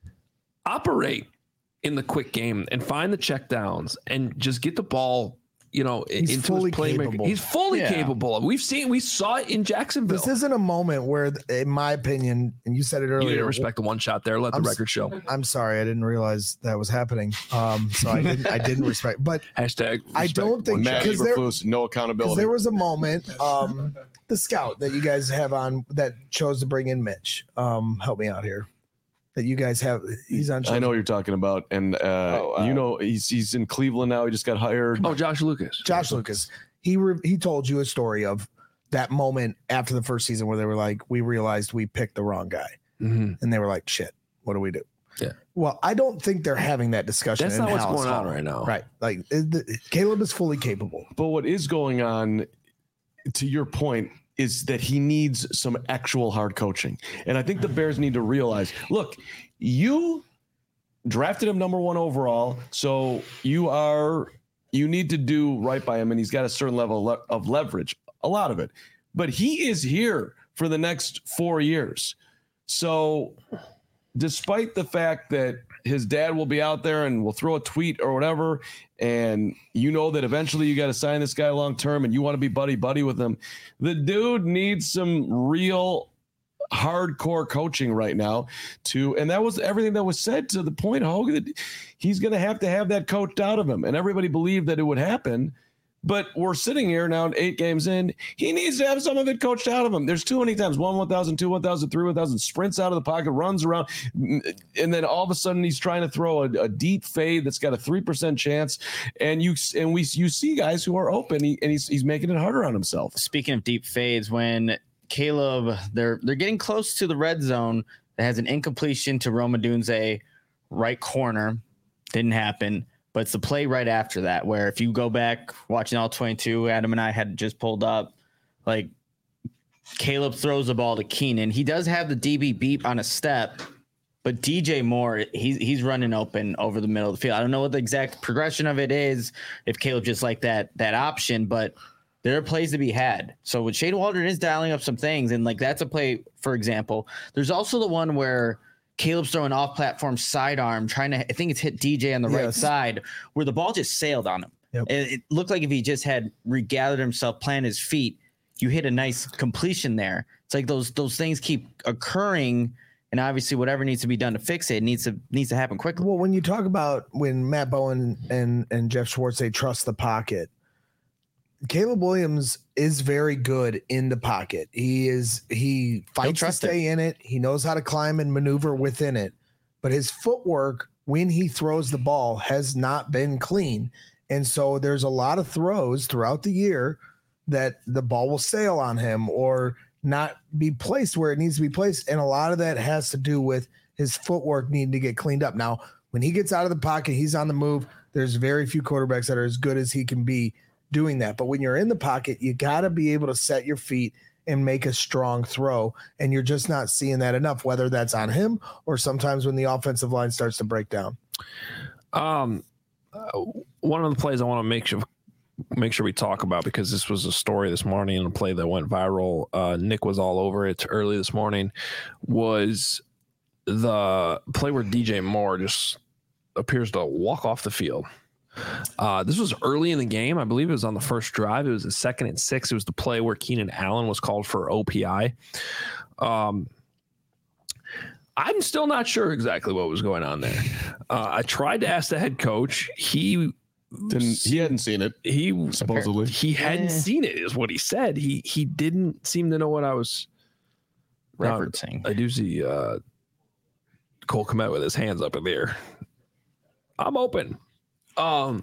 operate in the quick game and find the check downs and just get the ball, you know, He's into fully his playmaker. capable. He's fully Yeah. capable. We've seen, we saw it in Jacksonville. This isn't a moment where, in my opinion, and you said it You earlier, didn't respect the one shot there. Let the I'm, record show. I'm sorry, I didn't realize that was happening. Um, so I didn't, I didn't respect. But Hashtag I respect don't think Matt because there, Eberflus, no because accountability. there was a moment, um, the scout that you guys have on that chose to bring in Mitch. Um, help me out here. That you guys have, he's on. I know what you're talking about, and uh, Oh, wow. you know he's he's in Cleveland now. He just got hired. Oh, Josh Lucas. Josh Lucas. He re- he told you a story of that moment after the first season where they were like, we realized we picked the wrong guy, Mm-hmm. and they were like, shit, what do we do? Yeah. Well, I don't think they're having that discussion. That's in not what's Hallis going on Hall. right now. Right. Like it, the, Caleb is fully capable. But what is going on, to your point, is that he needs some actual hard coaching. And I think the Bears need to realize, look, you drafted him number one overall, so you are you need to do right by him, and he's got a certain level of, le- of leverage, a lot of it. But he is here for the next four years. So despite the fact that his dad will be out there and will throw a tweet or whatever, and you know that eventually you got to sign this guy long term and you want to be buddy buddy with him, the dude needs some real hardcore coaching right now to, and that was everything that was said to the point, Hogan, that he's going to have to have that coached out of him, and everybody believed that it would happen. But we're sitting here now, eight games in. He needs to have some of it coached out of him. There's too many times, one, one thousand, two, one thousand, three, one thousand, sprints out of the pocket, runs around, and then all of a sudden he's trying to throw a, a deep fade that's got a three percent chance. And you and we you see guys who are open, he, and he's he's making it harder on himself. Speaking of deep fades, when Caleb, they're they're getting close to the red zone that has an incompletion to Roma Dunze, right corner, didn't happen. But it's the play right after that, where if you go back watching all twenty-two, Adam and I had just pulled up, like Caleb throws the ball to Keenan. He does have the D B beep on a step, but D J Moore, he's he's running open over the middle of the field. I don't know what the exact progression of it is, if Caleb just like that that option, but there are plays to be had. So when Shane Waldron is dialing up some things, and like that's a play, for example. There's also the one where Caleb's throwing off-platform sidearm, trying to, I think it's hit D J on the yes. right side, where the ball just sailed on him. Yep. It, it looked like if he just had regathered himself, planted his feet, you hit a nice completion there. It's like those those things keep occurring, and obviously whatever needs to be done to fix it needs to needs to happen quickly. Well, when you talk about when Matt Bowen and and Jeff Schwartz say trust the pocket, Caleb Williams is very good in the pocket. He is he fights to stay in it. He knows how to climb and maneuver within it. But his footwork when he throws the ball has not been clean. And so there's a lot of throws throughout the year that the ball will sail on him or not be placed where it needs to be placed. And a lot of that has to do with his footwork needing to get cleaned up. Now, when he gets out of the pocket, he's on the move. There's very few quarterbacks that are as good as he can be doing that. But when you're in the pocket, you got to be able to set your feet and make a strong throw. And you're just not seeing that enough, whether that's on him or sometimes when the offensive line starts to break down. Um, uh, one of the plays I want to make sure make sure we talk about, because this was a story this morning and a play that went viral. Uh, Nick was all over it early this morning, was the play where D J Moore just appears to walk off the field. Uh, this was early in the game. I believe it was on the first drive. It was the second and six. It was the play where Keenan Allen was called for O P I. Um, I'm still not sure exactly what was going on there. Uh, I tried to ask the head coach. He didn't. He hadn't seen it. He supposedly he hadn't eh. seen it, is what he said. He he didn't seem to know what I was referencing. Uh, I do see uh, Cole Kmet with his hands up in the air. I'm open. Um,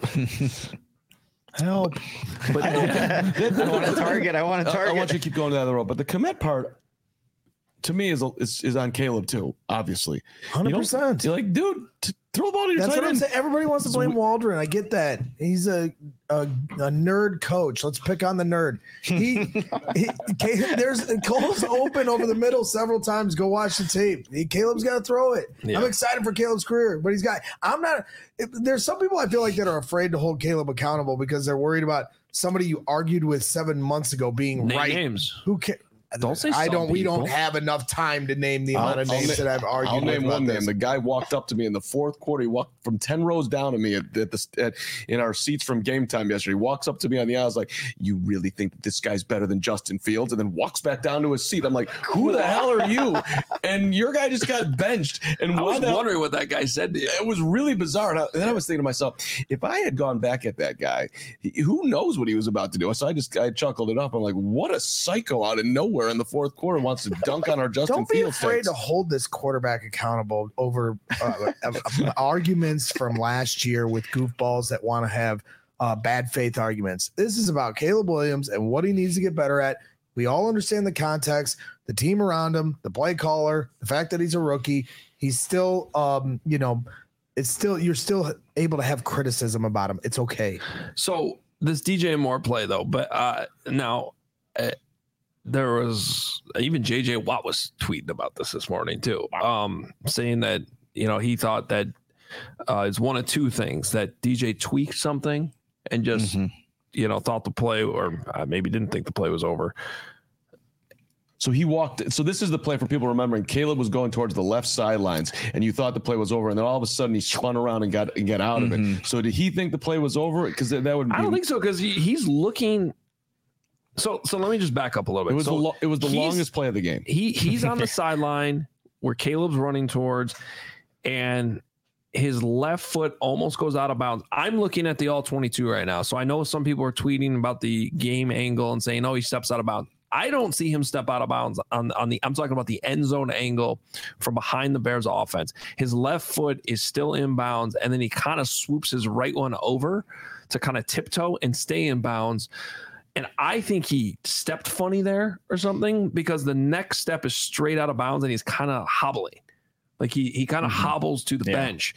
help! But I want to target. I want to target. I want you to keep going down the road. But the commit part, to me, is is, is on Caleb too. Obviously, hundred percent. You're like, dude, t- Throw the ball to your That's tight what I'm end. saying. Everybody wants to blame Waldron. I get that. He's a a, a nerd coach. Let's pick on the nerd. He, he there's Cole's open over the middle several times. Go watch the tape. He, Caleb's got to throw it. Yeah. I'm excited for Caleb's career, but he's got. I'm not. There's some people I feel like that are afraid to hold Caleb accountable because they're worried about somebody you argued with seven months ago being Name right. Names. Who can? Don't say I don't. people. We don't have enough time to name the amount I'll, of names I'll, that I've argued. I'll name with one this. name. The guy walked up to me in the fourth quarter. He walked from ten rows down to me at, at the at, in our seats from game time yesterday. He walks up to me on the aisle. I was like, "You really think that this guy's better than Justin Fields?" And then walks back down to his seat. I'm like, "Who the hell are you?" And your guy just got benched. And I was the, wondering what that guy said to you. It was really bizarre. And, I, and then I was thinking to myself, if I had gone back at that guy, he, who knows what he was about to do? So I just I chuckled it up. I'm like, "What a psycho out of nowhere in the fourth quarter wants to dunk on our Justin Don't be Fields afraid takes." to hold this quarterback accountable over uh, arguments from last year with goofballs that want to have uh, bad faith arguments. This is about Caleb Williams and what he needs to get better at. We all understand the context, the team around him, the play caller, the fact that he's a rookie. He's still, um, you know, it's still you're still able to have criticism about him. It's okay. So this D J Moore play though, but uh, now. Uh, There was even J J Watt was tweeting about this this morning too, um, saying that you know he thought that uh, it's one of two things, that D J tweaked something and just mm-hmm. you know thought the play, or uh, maybe didn't think the play was over. So he walked. So this is the play for people remembering. Caleb was going towards the left sidelines, and you thought the play was over, and then all of a sudden he spun around and got and got out mm-hmm. of it. So did he think the play was over? Because that would. Be, I don't think so, because he, he's looking. So so let me just back up a little bit. It was so the lo- it was the longest play of the game. He he's on the sideline where Caleb's running towards, and his left foot almost goes out of bounds. I'm looking at the all twenty-two right now, so I know some people are tweeting about the game angle and saying, "Oh, he steps out of bounds." I don't see him step out of bounds on on the. I'm talking about the end zone angle from behind the Bears offense. His left foot is still in bounds, and then he kind of swoops his right one over to kind of tiptoe and stay in bounds. And I think he stepped funny there or something, because the next step is straight out of bounds and he's kind of hobbling. Like he he kind of mm-hmm. hobbles to the yeah. bench.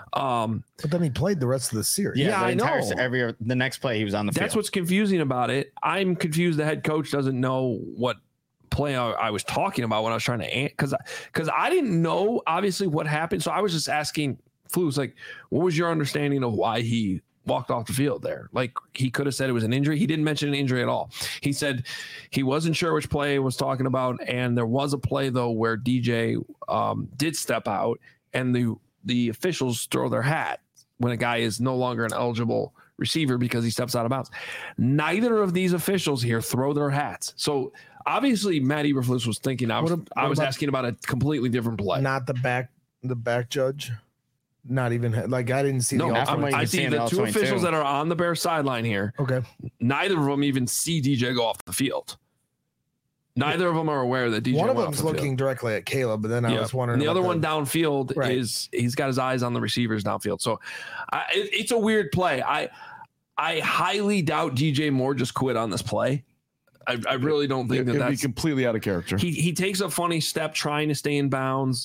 Um, but then he played the rest of the series. Yeah, yeah the I entire, know. Every the next play he was on the field. That's what's confusing about it. I'm confused. The head coach doesn't know what play I, I was talking about when I was trying to, because because I didn't know obviously what happened. So I was just asking Flus, like, what was your understanding of why he walked off the field there? Like, he could have said it was an injury. He didn't mention an injury at all. He said he wasn't sure which play he was talking about, and there was a play though where D J um, did step out, and the the officials throw their hat when a guy is no longer an eligible receiver because he steps out of bounds. Neither of these officials here throw their hats. So obviously Matt Eberflus was thinking I was, what, what I was about, asking about a completely different play. Not the back the back judge. Not even like I didn't see. No, the I, I see the, the two officials that are on the Bears sideline here. Okay, neither of them even see D J go off the field. Neither of them are aware that D J. One of went them's off the looking field. directly at Caleb, but then I yeah. was wondering. And the other the, one downfield right. is he's got his eyes on the receivers downfield. So I, it, it's a weird play. I I highly doubt D J Moore just quit on this play. I, I really don't think it, that it'd that's be completely out of character. He he takes a funny step trying to stay in bounds.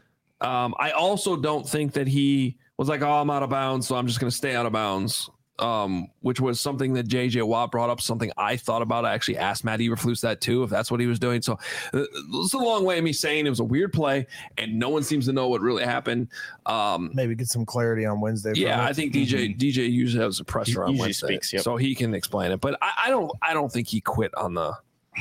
Um, I also don't think that he was like, oh, I'm out of bounds, so I'm just going to stay out of bounds, um, which was something that J J Watt brought up, something I thought about. I actually asked Matt Eberflus that too, if that's what he was doing. So uh, it's a long way of me saying it was a weird play, and no one seems to know what really happened. Um, Maybe get some clarity on Wednesday. Yeah, I think D J mm-hmm. D J usually has a presser he on Wednesday, speaks, yep. so he can explain it. But I, I don't I don't think he quit on the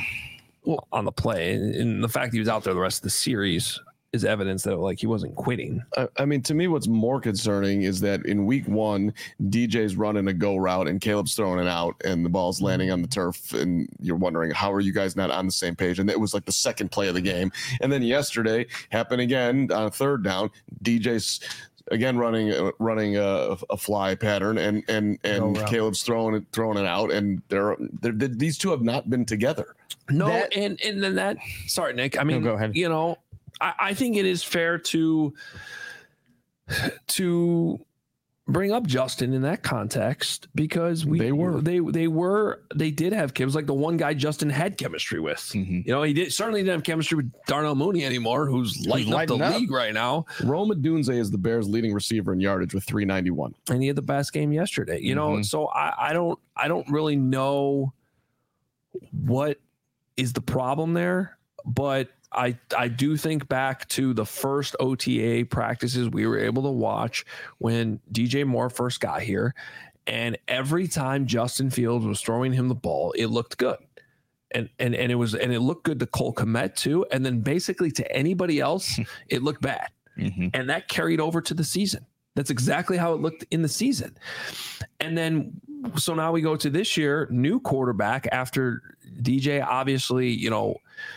well, on the play, and, and the fact that he was out there the rest of the series is evidence that like he wasn't quitting. I, I mean, to me, what's more concerning is that in week one, D J's running a go route and Caleb's throwing it out and the ball's landing on the turf. And you're wondering, how are you guys not on the same page? And it was like the second play of the game. And then yesterday happened again on a third down. D J's again running uh, running a, a fly pattern, and and and Caleb's throwing it throwing it out. And they're, they're, they're these two have not been together. No, that, and and then that. Sorry, Nick. I mean, no, go ahead. You know. I think it is fair to to bring up Justin in that context because we they were they they were they did have kids like the one guy Justin had chemistry with. Mm-hmm. You know, he did certainly didn't have chemistry with Darnell Mooney anymore, who's lighting up the up. league right now. Rome Odunze is the Bears' leading receiver in yardage with three ninety-one, and he had the best game yesterday. You mm-hmm. know, so I, I don't I don't really know what is the problem there, but I, I do think back to the first O T A practices we were able to watch when D J Moore first got here. And every time Justin Fields was throwing him the ball, it looked good. And and and it was and it looked good to Cole Kmet too. And then basically to anybody else, it looked bad. Mm-hmm. And that carried over to the season. That's exactly how it looked in the season. And then so now we go to this year, new quarterback after D J obviously, you know,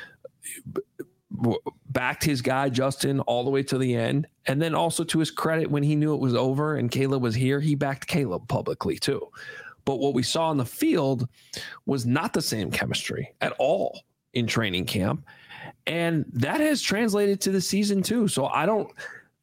backed his guy Justin all the way to the end, and then also to his credit, when he knew it was over and Caleb was here, he backed Caleb publicly too. But what we saw on the field was not the same chemistry at all in training camp, and that has translated to the season too. So I don't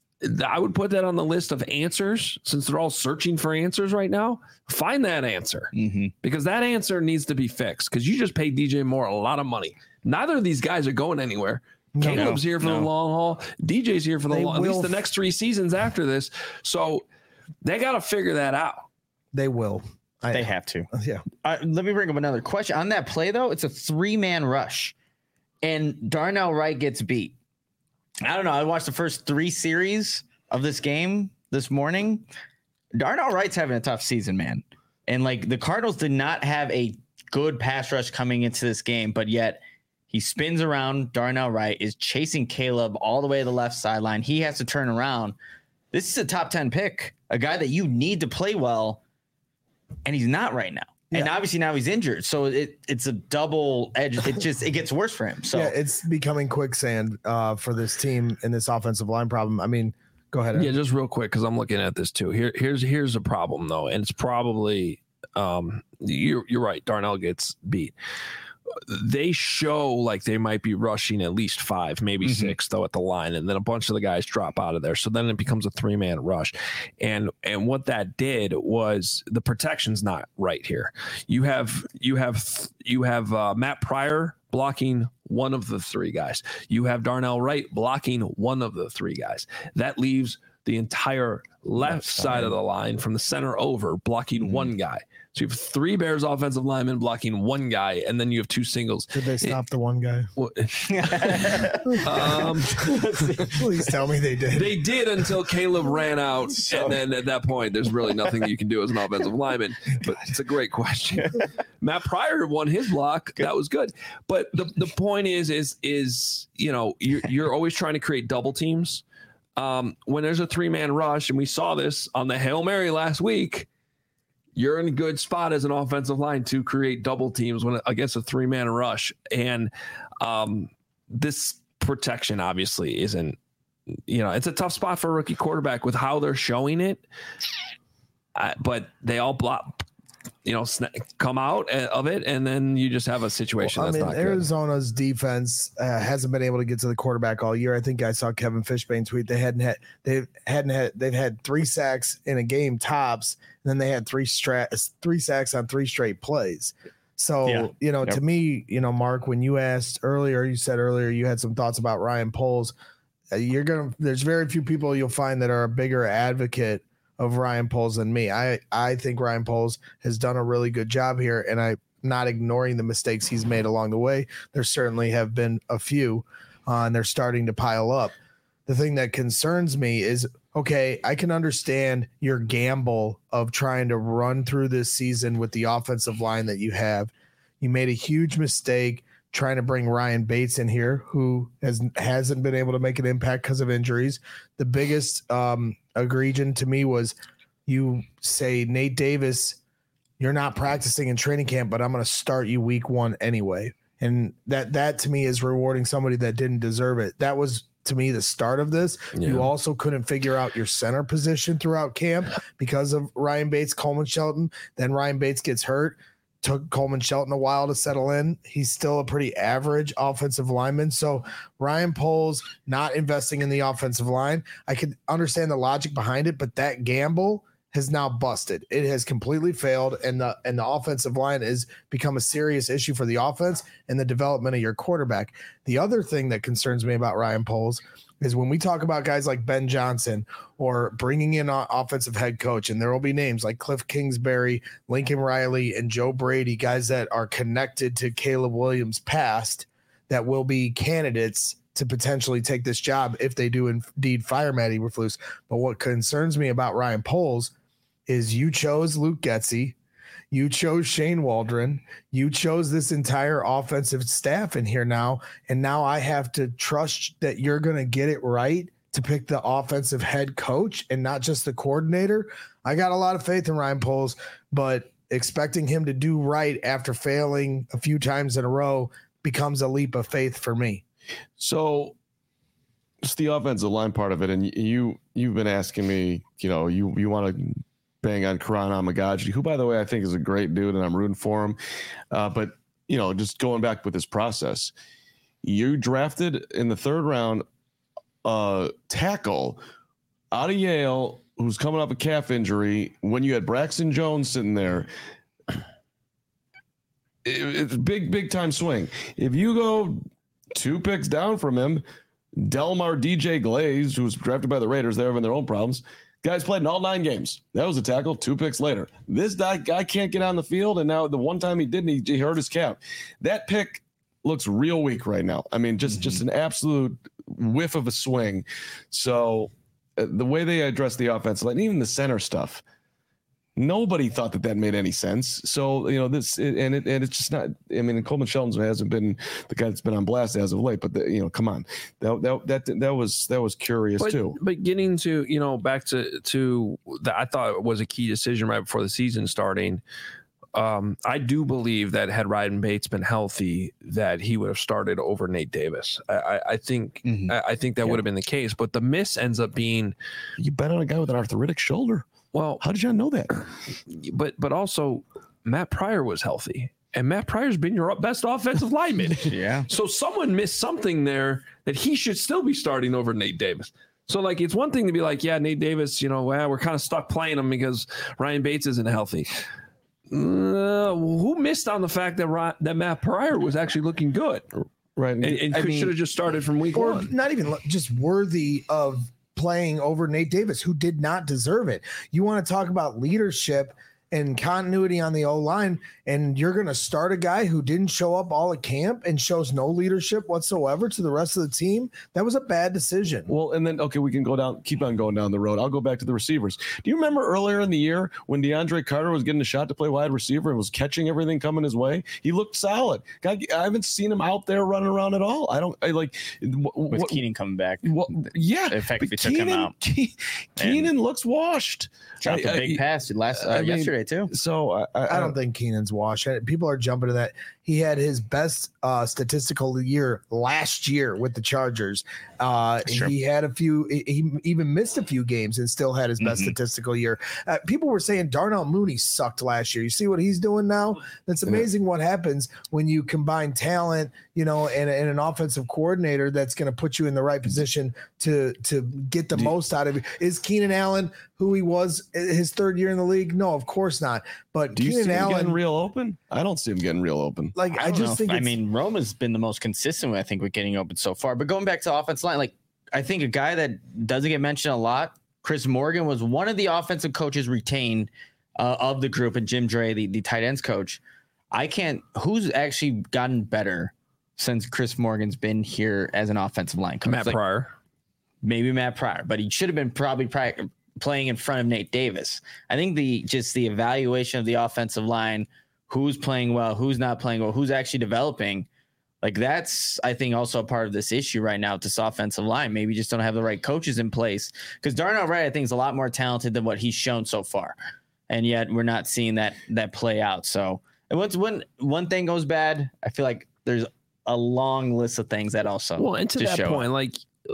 I would put that on the list of answers, since they're all searching for answers right now. Find that answer, mm-hmm. because that answer needs to be fixed, because you just paid D J Moore a lot of money. Neither of these guys are going anywhere. No, Caleb's here for no. the long haul. D J's here for the long, at least the next three seasons after this. So they got to figure that out. They will. I, they have to. Yeah. Uh, let me bring up another question. On that play, though, it's a three-man rush, and Darnell Wright gets beat. I don't know. I watched the first three series of this game this morning. Darnell Wright's having a tough season, man. And, like, the Cardinals did not have a good pass rush coming into this game, but yet – he spins around. Darnell Wright is chasing Caleb all the way to the left sideline. He has to turn around. This is a top ten pick, a guy that you need to play well, and he's not right now. Yeah. And obviously now he's injured, so it it's a double edge. It just it gets worse for him. So yeah, it's becoming quicksand uh, for this team in this offensive line problem. I mean, go ahead. Yeah, just real quick, because I'm looking at this too. Here, here's here's a problem though, and it's probably um, you're you're right. Darnell gets beat. They show like they might be rushing at least five, maybe mm-hmm. six, though, at the line, and then a bunch of the guys drop out of there. So then it becomes a three-man rush, and and what that did was the protection's not right here. You have you have you have uh, Matt Pryor blocking one of the three guys. You have Darnell Wright blocking one of the three guys. That leaves the entire left side of the line from the center over blocking mm-hmm. one guy. So you have three Bears offensive linemen blocking one guy, and then you have two singles. Did they stop it, the one guy? Well, um, please tell me they did. They did until Caleb ran out, so. and then at that point, there's really nothing that you can do as an offensive lineman. But it's a great question. Matt Pryor won his block. Good. That was good. But the, the point is, is is you know you're, you're always trying to create double teams. Um, when there's a three-man rush, and we saw this on the Hail Mary last week, you're in a good spot as an offensive line to create double teams when against a three-man rush. And um, this protection obviously isn't, you know, it's a tough spot for a rookie quarterback with how they're showing it. Uh, but they all block, you know, sn- come out of it, and then you just have a situation well, that's I mean, not Arizona's good. defense uh, hasn't been able to get to the quarterback all year. I think I saw Kevin Fishbane tweet they hadn't had they hadn't had they've had three sacks in a game tops, and then they had three stra- three sacks on three straight plays. So yeah. you know, yep. to me, you know, Mark, when you asked earlier, you said earlier you had some thoughts about Ryan Poles. Uh, you're gonna there's very few people you'll find that are a bigger advocate of Ryan Poles than me. I, I think Ryan Poles has done a really good job here, and I'm not ignoring the mistakes he's made along the way. There certainly have been a few, uh, and they're starting to pile up. The thing that concerns me is, okay, I can understand your gamble of trying to run through this season with the offensive line that you have. You made a huge mistake trying to bring Ryan Bates in here, who has, hasn't been able to make an impact because of injuries. The biggest um, egregion to me was you say, Nate Davis, you're not practicing in training camp, but I'm going to start you week one anyway. And that, that to me is rewarding somebody that didn't deserve it. That was, to me, the start of this. Yeah. You also couldn't figure out your center position throughout camp because of Ryan Bates, Coleman Shelton. Then Ryan Bates gets hurt. Took Coleman Shelton a while to settle in. He's still a pretty average offensive lineman. So Ryan Poles not investing in the offensive line, I could understand the logic behind it, but that gamble has now busted. It has completely failed, and the and the offensive line has become a serious issue for the offense and the development of your quarterback. The other thing that concerns me about Ryan Poles is when we talk about guys like Ben Johnson or bringing in an offensive head coach, and there will be names like Cliff Kingsbury, Lincoln Riley, and Joe Brady, guys that are connected to Caleb Williams' past that will be candidates to potentially take this job if they do indeed fire Matt Eberflus. But what concerns me about Ryan Poles is you chose Luke Getsy, you chose Shane Waldron, you chose this entire offensive staff in here now, and now I have to trust that you're going to get it right to pick the offensive head coach and not just the coordinator. I got a lot of faith in Ryan Poles, but expecting him to do right after failing a few times in a row becomes a leap of faith for me. So just the offensive line part of it, and you you've been asking me, you know, you you want to bang on Karan Amagaji, who, by the way, I think is a great dude, and I'm rooting for him. Uh, but, you know, just going back with this process, you drafted in the third round uh, tackle out of Yale who's coming off a calf injury when you had Braxton Jones sitting there. It, it's a big, big time swing. If you go two picks down from him, Delmar D J Glaze, who was drafted by the Raiders, they're having their own problems. Guy's played in all nine games. That was a tackle, two picks later. This guy, guy can't get on the field, and now the one time he didn't, he, he hurt his calf. That pick looks real weak right now. I mean, just, mm-hmm. just an absolute whiff of a swing. So uh, the way they address the offense, like even the center stuff, nobody thought that that made any sense. So, you know, this, it, and it, and it's just not, I mean, Coleman Shelton hasn't been the guy that's been on blast as of late, but the, you know, come on, that, that, that, that was, that was curious but, too. But getting to, you know, back to, to the, I thought it was a key decision right before the season starting. Um, I do believe that had Ryan Bates been healthy, that he would have started over Nate Davis. I, I, I think, mm-hmm. I, I think that yeah. would have been the case, but the miss ends up being, you bet on a guy with an arthritic shoulder. Well, how did you know that? But but also Matt Pryor was healthy, and Matt Pryor's been your best offensive lineman. Yeah. So someone missed something there that he should still be starting over Nate Davis. So like it's one thing to be like, yeah, Nate Davis, you know, well, we're kind of stuck playing him because Ryan Bates isn't healthy. Uh, who missed on the fact that Ryan, that Matt Pryor was actually looking good, right? And, and should have just started from week or one, not even just worthy of playing over Nate Davis, who did not deserve it. You want to talk about leadership and continuity on the O-line, and you're going to start a guy who didn't show up all at camp and shows no leadership whatsoever to the rest of the team. That was a bad decision. Well, and then, okay, we can go down, keep on going down the road. I'll go back to the receivers. Do you remember earlier in the year when DeAndre Carter was getting a shot to play wide receiver and was catching everything coming his way? He looked solid. God, I haven't seen him out there running around at all. I don't I like what, with Keenan coming back. What, yeah. Effectively took him out. Ke- Keenan looks washed. Dropped I, a big I, pass last uh, I mean, yesterday too. So I, I, I don't think Keenan's washed. People are jumping to that. He had his best uh, statistical year last year with the Chargers. Uh, sure. He had a few. He even missed a few games and still had his best mm-hmm. statistical year. Uh, people were saying Darnell Mooney sucked last year. You see what he's doing now? That's amazing. Yeah. What happens when you combine talent, you know, and, and an offensive coordinator that's going to put you in the right position to to get the Do most out of it. Is Keenan Allen who he was his third year in the league? No, of course not. But do you Keenan see him Allen getting real open? I don't see him getting real open. Like I, I just think I mean, Roma's been the most consistent, I think, with getting open so far. But going back to the offensive line, like I think a guy that doesn't get mentioned a lot, Chris Morgan, was one of the offensive coaches retained uh, of the group, and Jim Dre, the, the tight ends coach. I can't. Who's actually gotten better since Chris Morgan's been here as an offensive line coach? Matt like, Pryor, maybe Matt Pryor, but he should have been probably pri- playing in front of Nate Davis. I think the just the evaluation of the offensive line. Who's playing well, who's not playing well, who's actually developing. Like that's, I think, also a part of this issue right now with this offensive line. Maybe just don't have the right coaches in place. Because Darnell Wright, I think, is a lot more talented than what he's shown so far. And yet we're not seeing that that play out. So and once when one thing goes bad, I feel like there's a long list of things that also well, and to that point, up. like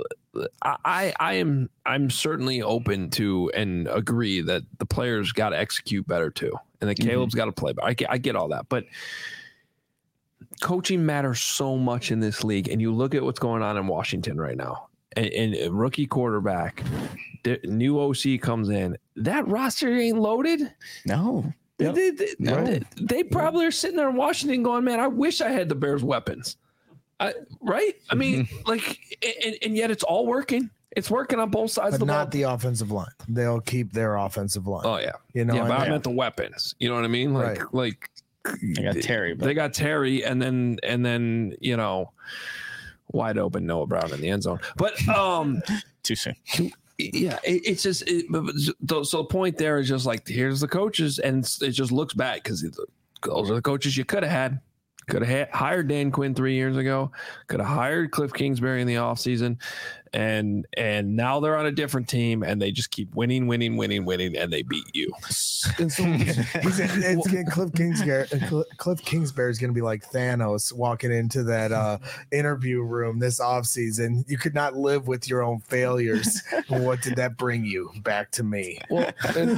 I, I am I'm certainly open to and agree that the players got to execute better too, and that mm-hmm. Caleb's got to play better. I get, I get all that, but coaching matters so much in this league. And you look at what's going on in Washington right now, and, and rookie quarterback, the new O C comes in. That roster ain't loaded. No. Yep. They, they, no. they, they probably are sitting there in Washington going, man, I wish I had the Bears' weapons. I, right? I mean, like, and, and yet it's all working. It's working on both sides but of the not ball. the offensive line. They'll keep their offensive line. Oh, yeah. You know, yeah, but I yeah. meant the weapons. You know what I mean? Like, right. like they got Terry. But. They got Terry, and then, and then, you know, wide open Noah Brown in the end zone. But, um, too soon. Yeah, it, it's just it, so the point there is just like, here's the coaches, and it just looks bad because those are the coaches you could have had. Could have hired Dan Quinn three years ago. Could have hired Cliff Kingsbury in the offseason. And and now they're on a different team, and they just keep winning, winning, winning, winning, and they beat you. And so he's, it's, it's, Cliff Kingsbury, Cliff Kingsbury is going to be like Thanos walking into that uh, interview room this offseason. You could not live with your own failures. What did that bring you? Back to me. Well, and,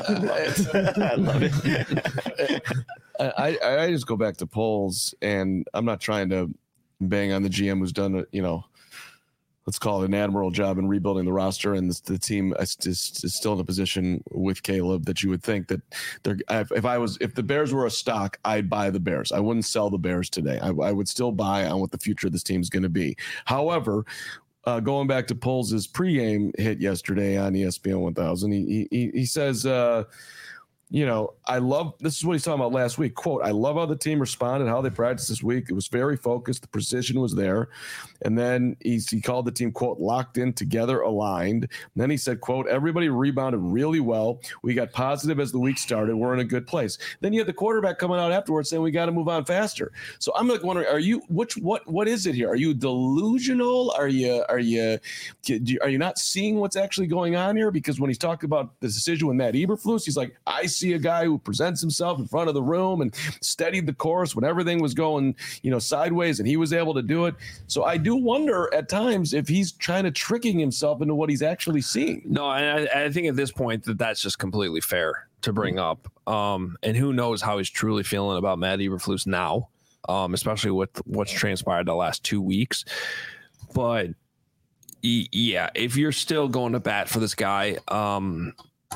I love it. I, I just go back to polls, and I'm not trying to bang on the G M who's done, you know, let's call it an admirable job in rebuilding the roster, and this, the team is, is, is still in a position with Caleb that you would think that they're. If I was, if the Bears were a stock, I'd buy the Bears. I wouldn't sell the Bears today. I, I would still buy on what the future of this team is going to be. However, uh, going back to Poles' pregame hit yesterday on E S P N one thousand, he he he says. Uh, You know, I love, this is what he's talking about last week. Quote, I love how the team responded, how they practiced this week. It was very focused. The precision was there. And then he's, he called the team, quote, locked in, together, aligned. And then he said, quote, everybody rebounded really well. We got positive as the week started. We're in a good place. Then you had the quarterback coming out afterwards saying we got to move on faster. So I'm like wondering, are you, which, what, what is it here? Are you delusional? Are you, are you, are you not seeing what's actually going on here? Because when he's talking about the decision with Matt Eberflus, he's like, I see a guy who presents himself in front of the room and steadied the course when everything was going, you know, sideways, and he was able to do it. So I do wonder at times if he's trying to tricking himself into what he's actually seeing. No, I, I think at this point that that's just completely fair to bring up. Um, and who knows how he's truly feeling about Matt Eberflus now, um, especially with what's transpired the last two weeks. But yeah, if you're still going to bat for this guy, um,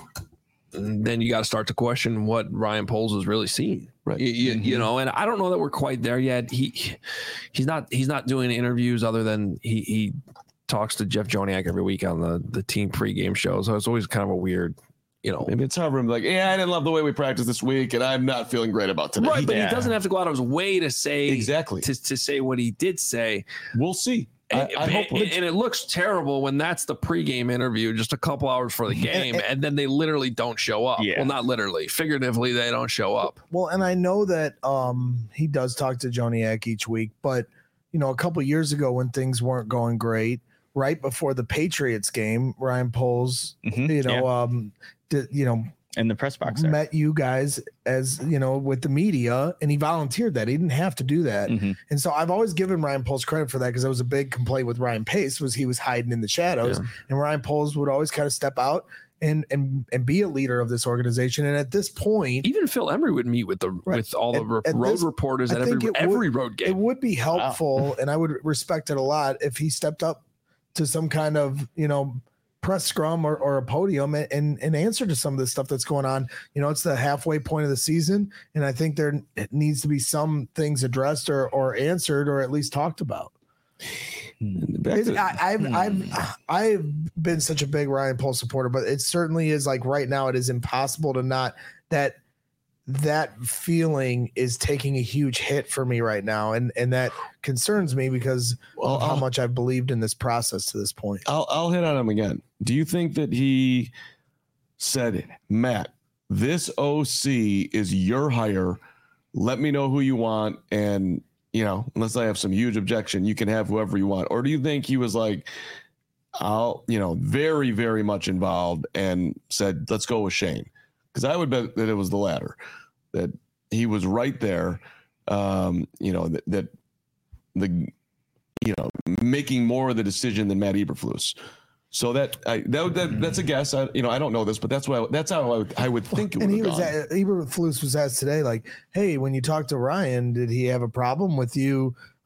then you got to start to question what Ryan Poles is really seeing. Right. You, mm-hmm. you know, and I don't know that we're quite there yet. He, he's not, he's not doing interviews other than he, he talks to Jeff Joniak every week on the, the team pregame show. So it's always kind of a weird, you know, maybe it's hard for him like, yeah, I didn't love the way we practiced this week and I'm not feeling great about today. Right. But yeah. he doesn't have to go out of his way to say exactly to, to say what he did say. We'll see. I, I and, hope and it looks terrible when that's the pregame interview just a couple hours for the game, and then they literally don't show up. Yeah. Well, not literally, figuratively, they don't show up. Well, and I know that um, he does talk to Joniak each week, but you know, a couple years ago when things weren't going great, right before the Patriots game, Ryan Poles, mm-hmm. you know, yeah. um, did, you know. in the press box there. Met you guys as, you know, with the media, and he volunteered that. He didn't have to do that. Mm-hmm. And so I've always given Ryan Poles credit for that, because that was a big complaint with Ryan Pace, was he was hiding in the shadows. Yeah. And Ryan Poles would always kind of step out and and and be a leader of this organization. And at this point, even Phil Emery would meet with the right. with all the at, road at this, reporters at every every would, road game. It would be helpful, wow. and I would respect it a lot if he stepped up to some kind of, you know, press scrum or, or a podium and, and and answer to some of the stuff that's going on. You know, it's the halfway point of the season, and I think there needs to be some things addressed or or answered or at least talked about. To, I, I've hmm. I've I've been such a big Ryan Poles supporter, but it certainly is like right now it is impossible to not that that feeling is taking a huge hit for me right now, and and that concerns me because well, of how I'll, much I've believed in this process to this point. I'll I'll hit on him again. Do you think that he said, Matt, this O C is your hire. Let me know who you want, and you know, unless I have some huge objection, you can have whoever you want? Or do you think he was like, I'll, you know, very, very much involved and said, let's go with Shane? Because I would bet that it was the latter, that he was right there, um, you know, that, that the, you know, making more of the decision than Matt Eberflus. So that, I, that, that that's a guess. I, you know, I don't know this, but that's why that's how I would, I would think it would. And he have was gone. at, Eberflus was asked today, like, hey, when you talked to Ryan, did he have a problem with you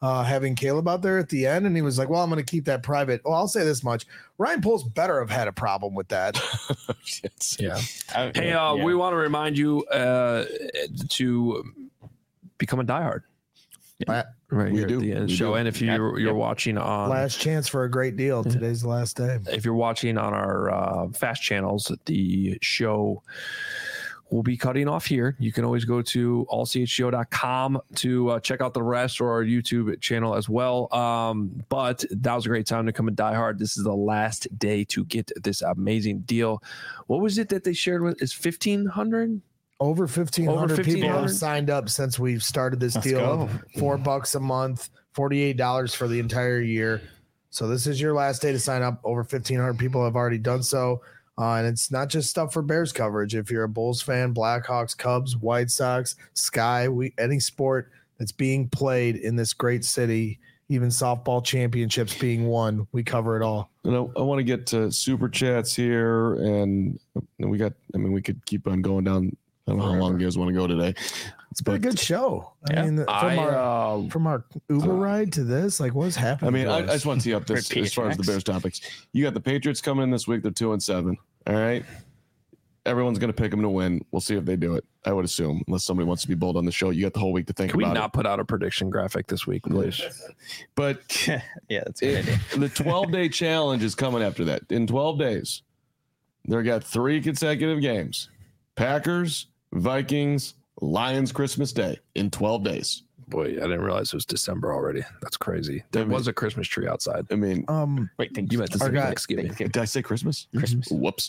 uh, having Caleb out there at the end, and he was like, well, I'm going to keep that private. Well, I'll say this much. Ryan Poles better have had a problem with that. yeah. Hey, uh, yeah. we want to remind you uh, to become a diehard. Yeah. Right we here do. at the end of the we show. do. And if you're, you're yep. watching on... Last chance for a great deal. Today's the last day. If you're watching on our uh, fast channels, the show will be cutting off here. You can always go to all c h g o dot com to uh, check out the rest, or our YouTube channel as well. Um, but that was a great time to come and Die Hard. This is the last day to get this amazing deal. What was it that they shared with? Is fifteen hundred? Over fifteen hundred people have signed up since we've started this Let's deal. go. Four bucks a month, forty-eight dollars for the entire year. So this is your last day to sign up. Over fifteen hundred people have already done so. Uh, and it's not just stuff for Bears coverage. If you're a Bulls fan, Blackhawks, Cubs, White Sox, Sky, we, any sport that's being played in this great city, even softball championships being won, we cover it all. You know, I want to get to super chats here, and, and we got, I mean, we could keep on going down. I don't know how long you guys want to go today. It's been a good show. I Yeah. mean, from I, our uh, from our Uber ride to this, like, what's happening? I mean, to I, I us? just want to tee up this Repeat as far as the tracks. Bears topics. You got the Patriots coming in this week. They're two and seven. All right. Everyone's going to pick them to win. We'll see if they do it. I would assume, unless somebody wants to be bold on the show. You got the whole week to think Can we about not it. put out a prediction graphic this week, please? But yeah, that's a good idea. the twelve-day challenge is coming after that. In twelve days, they got three consecutive games. Packers, Vikings, Lions, Christmas Day in twelve days. Boy, I didn't realize it was December already. That's crazy. There I mean- was a Christmas tree outside. I mean, um, Wait, thank You meant to say Our guy- Thanksgiving. did I say Christmas? Christmas. Whoops.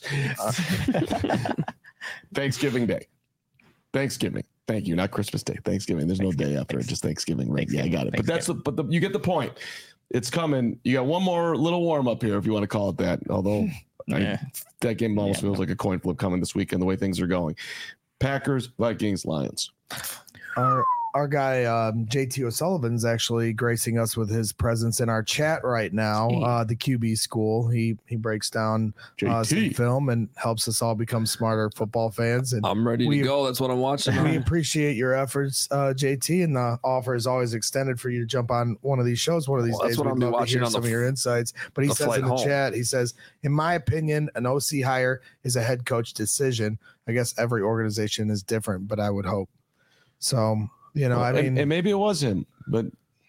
Thanksgiving Day. Thanksgiving. Thank you. Not Christmas Day. Thanksgiving. There's no day after it. Just Thanksgiving. Right? Yeah, I got it. But that's the, but the, you get the point. It's coming. You got one more little warm up here, if you want to call it that. Although Yeah. I, that game almost Yeah. feels like a coin flip coming this weekend, the way things are going. Packers, Vikings, Lions. our our guy um, J T O'Sullivan's actually gracing us with his presence in our chat right now. Uh, the Q B school. He he breaks down uh, some J T. film and helps us all become smarter football fans. And I'm ready We- to go. That's what I'm watching. we appreciate your efforts, uh, J T, and the offer is always extended for you to jump on one of these shows one of these Well, that's days. what We'd I'll be love to watching hear on the some of f- your insights. But he the says flight in the home. chat, he says, in my opinion, an O C hire is a head coach decision. I guess every organization is different, but I would hope. So, you know, I and, mean, and maybe it was him, but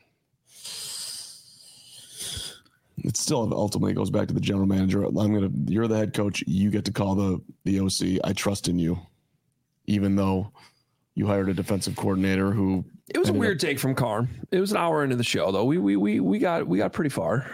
it still ultimately goes back to the general manager. I'm gonna. You're the head coach. You get to call the the O C. I trust in you, even though you hired a defensive coordinator who. It was a ended weird take from Carm. It was an hour into the show, though. We we we we got we got pretty far.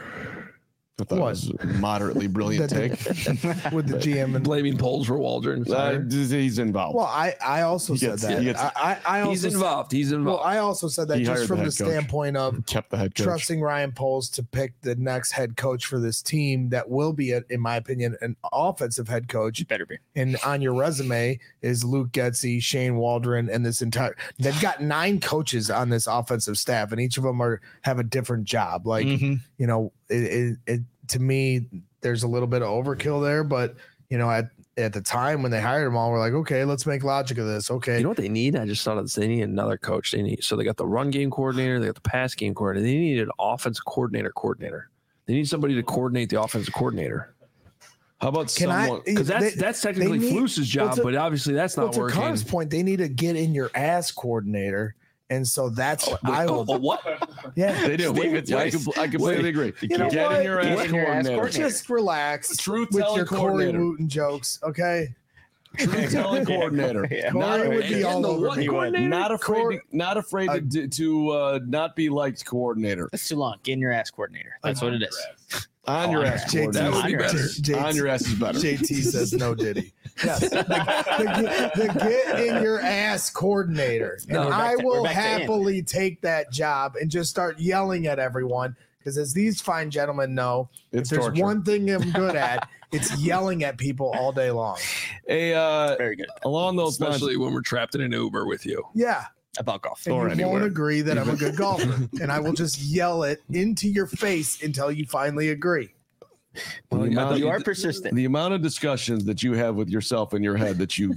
I thought What? it was a moderately brilliant take. with the G M and Blaming polls for Waldron. Uh, he's involved. well, I I also He said gets- that. he gets- I I, I also He's said- involved. He's well, involved. I also said that He just hired from the the, head coach. standpoint of Kept the head coach. trusting Ryan Poles to pick the next head coach for this team that will be, a, in my opinion, an offensive head coach. Better be. And on your resume is Luke Getsy, Shane Waldron, and this entire. They've got nine coaches on this offensive staff, and each of them are have a different job. Like Mhm. you know, it, it, it to me, there's a little bit of overkill there, but you know, at at the time when they hired them all, we're like, okay, let's make logic of this. Okay, You know what they need? I just thought of this. They need another coach. They need so they got the run game coordinator, they got the pass game coordinator. They need an offensive coordinator coordinator. They need somebody to coordinate the offensive coordinator. How about Can I- someone? Because that's They- that's technically they need- Fluce's job, well, to- but obviously that's well, not to working. Carr's point, they need to get in your ass coordinator, and so that's Wait, I oh, will. oh, what? Yeah, They do. David Yeah, I, Weiss. compl- I completely agree. You know Get what? in your Get ass in your ass coordinator. coordinator. just relax Truth with telling your Corey coordinator. Wooten jokes, okay? Truth telling coordinator. Yeah. Not, Corey would be And all the over what me. coordinator? not afraid. Cor- to, not afraid Uh, to, to uh, not be liked coordinator. That's too long. Get in your ass coordinator. That's what it is. On Oh, your on ass J T, That would be coordinator. better. J T, On your ass is better. J T says no, Diddy. Yes, the, the, the get in your ass coordinator, and No, we're back I to- will we're back to in. happily take that job and just start yelling at everyone. Because as these fine gentlemen know, It's if there's torture. one thing I'm good at, it's yelling at people all day long. A uh, Very good. along those lines. Especially when we're trapped in an Uber with you. Yeah. About golf. And Or you anywhere. won't agree that I'm a good golfer. And I will just yell it into your face until you finally agree. the, I amount, thought You are persistent. the amount of discussions that you have with yourself in your head that you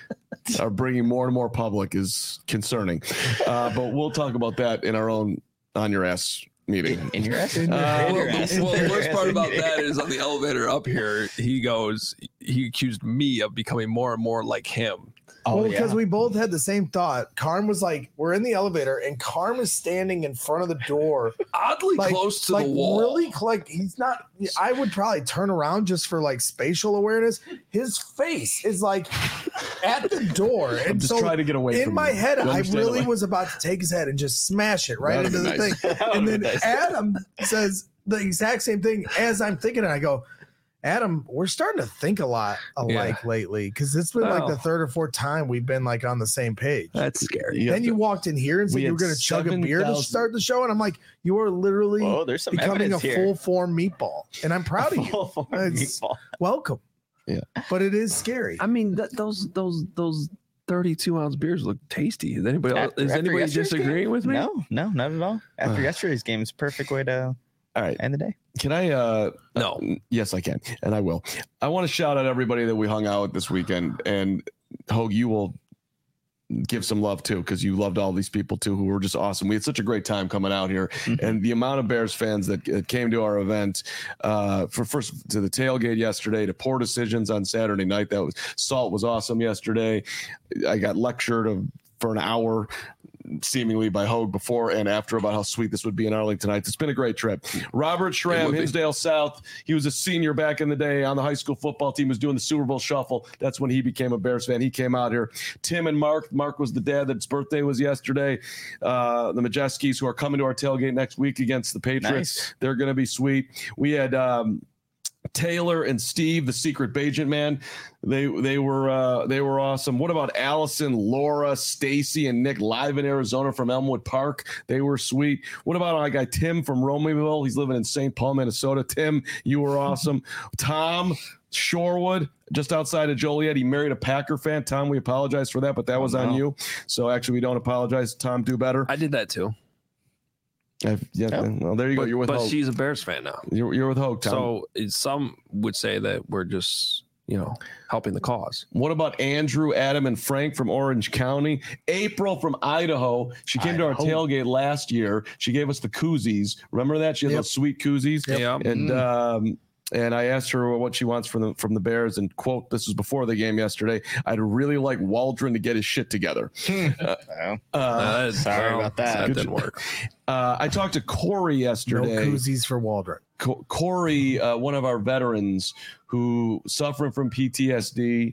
are bringing more and more public is concerning. Uh, but we'll talk about that in our own on your ass meeting. In your ass. Uh, well, the, well, the worst part about meeting. that is on the elevator up here, he goes, he accused me of becoming more and more like him. Oh, well, because yeah. we both had the same thought. Karm was like, we're in the elevator, and Karm is standing in front of the door, Oddly like, close to like the wall. really, like he's not. I would probably turn around just for like spatial awareness. His face is like at the door, and I'm just so trying to get away in from my you. head, You I understand really that? was about to take his head and just smash it right That'd into be the nice. thing. And then nice. Adam says the exact same thing as I'm thinking it. I go, Adam, we're starting to think a lot alike Yeah. lately because it's been like Oh. the third or fourth time we've been like on the same page. That's scary. Yeah, Then you walked in here and said we you had were going to chug a beer to 7,000 start the show, and I'm like, you are literally Whoa, there's some becoming a evidence here. full form meatball, and I'm proud of you. Full form It's- meatball. Welcome. Yeah. But it is scary. I mean, that, those those those thirty-two ounce beers look tasty. Is anybody else, After- is after anybody yesterday's disagreeing game? with me? No, no, not at all. After Uh. yesterday's game, it's a perfect way to All right. end the day. Can I? Uh, No. uh, yes, I can, and I will. I want to shout out everybody that we hung out with this weekend, and Hogue, you will give some love too, because you loved all these people too, who were just awesome. We had such a great time coming out here, Mhm. and the amount of Bears fans that uh, came to our event, uh, for first to the tailgate yesterday, to Poor Decisions on Saturday night. That was Salt was awesome yesterday. I got lectured of, for an hour. Seemingly by Hogue before and after about how sweet this would be in Arlington Heights. It's been a great trip. Robert It Schramm, would be. Hinsdale South. He was a senior back in the day on the high school football team, was doing the Super Bowl shuffle. That's when he became a Bears fan. He came out here. Tim and Mark. Mark was the dad that's birthday was yesterday. Uh, the Majeskis, who are coming to our tailgate next week against the Patriots. Nice. They're going to be sweet. We had um, Taylor and Steve, the secret Bajent man. They they were uh, they were awesome. What about Allison, Laura, Stacy, and Nick live in Arizona from Elmwood Park? They were sweet. What about our guy Tim from Romeo? He's living in Saint Paul, Minnesota. Tim, you were awesome. Tom Shorewood, just outside of Joliet. He married a Packer fan. Tom, we apologize for that, but that Oh, was on no. you. So actually, we don't apologize. Tom, do better. I did that too. I've, yeah, Oh. well, there you But, go. You're with but Hogue. she's a Bears fan now. You're, you're with Hogue, Tom. So it- some would say that we're just, you know, helping the cause. What about Andrew, Adam, and Frank from Orange County? April from Idaho. She came to our Idaho. tailgate last year. She gave us the koozies. Remember that? She had Yep. those sweet koozies. Yep. Yeah. And um, and I asked her what she wants from the from the Bears. And quote, this was before the game yesterday. I'd really like Waldron to get his shit together. Oh, Uh, Uh, sorry about that. That Good didn't job. work. uh, I talked to Corey No yesterday. koozies for Waldron. Co- Corey, uh, one of our veterans who suffering from P T S D.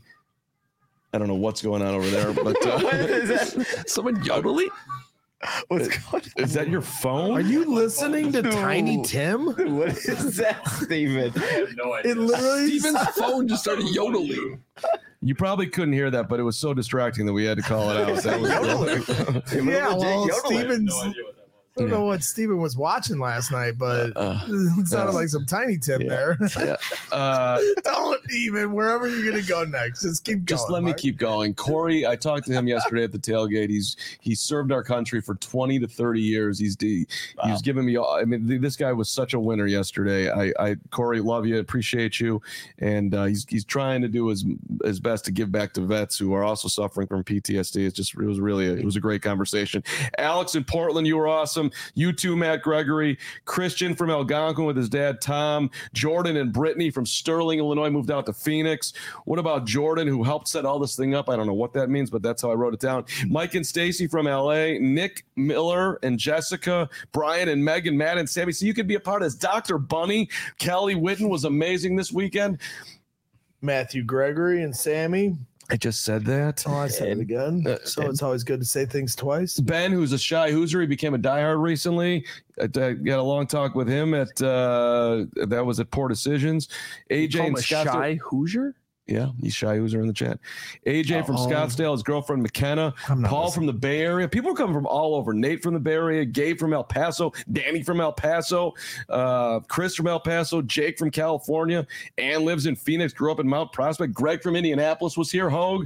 I don't know what's going on over there, but what uh, is that? Someone yodeling? What's going on? is that your phone? Are you listening to Tiny Tim? What is that, Steven? It literally Steven's phone just started yodeling. You probably couldn't hear that, but it was so distracting that we had to call it out. That was Yeah, Legit well, yodeling. Steven's. I don't know what Steven was watching last night, but Uh, it sounded uh, like some Tiny Tim yeah. there. yeah. Uh, Don't even. Wherever you're gonna go next, just keep going. just let me Mark. keep going. Corey, I talked to him yesterday at the tailgate. He's he served our country for twenty to thirty years. He's he, Wow. he's given me all. I mean, th- this guy was such a winner yesterday. I, I Corey, love you, appreciate you, and uh, he's he's trying to do his his best to give back to vets who are also suffering from P T S D. It's just it was really a, it was a great conversation. Alex in Portland, you were awesome. You too, Matt Gregory. Christian from Algonquin with his dad Tom. Jordan and Brittany from Sterling, Illinois, moved out to Phoenix. What about Jordan, who helped set all this thing up? I don't know what that means, but that's how I wrote it down. Mike and Stacy from L A. Nick Miller and Jessica. Brian and Megan, Matt and Sammy. So you could be a part of this. Doctor Bunny. Kelly Witten was amazing this weekend. Matthew Gregory and Sammy. I just said that. Oh, I said it again. Uh, So it's always good to say things twice. Ben, who's a shy Hoosier, he became a diehard recently. I, I got a long talk with him at uh, that was at Poor Decisions. A J Call and him a Scott. shy Hoosier? Yeah, he's shy Hoosier in the chat. A J from Oh. Scottsdale, his girlfriend McKenna, I'm not Paul listening. from the Bay Area. People are coming from all over. Nate from the Bay Area, Gabe from El Paso, Danny from El Paso, uh, Chris from El Paso, Jake from California. Ann lives in Phoenix, grew up in Mount Prospect. Greg from Indianapolis was here. Hogue.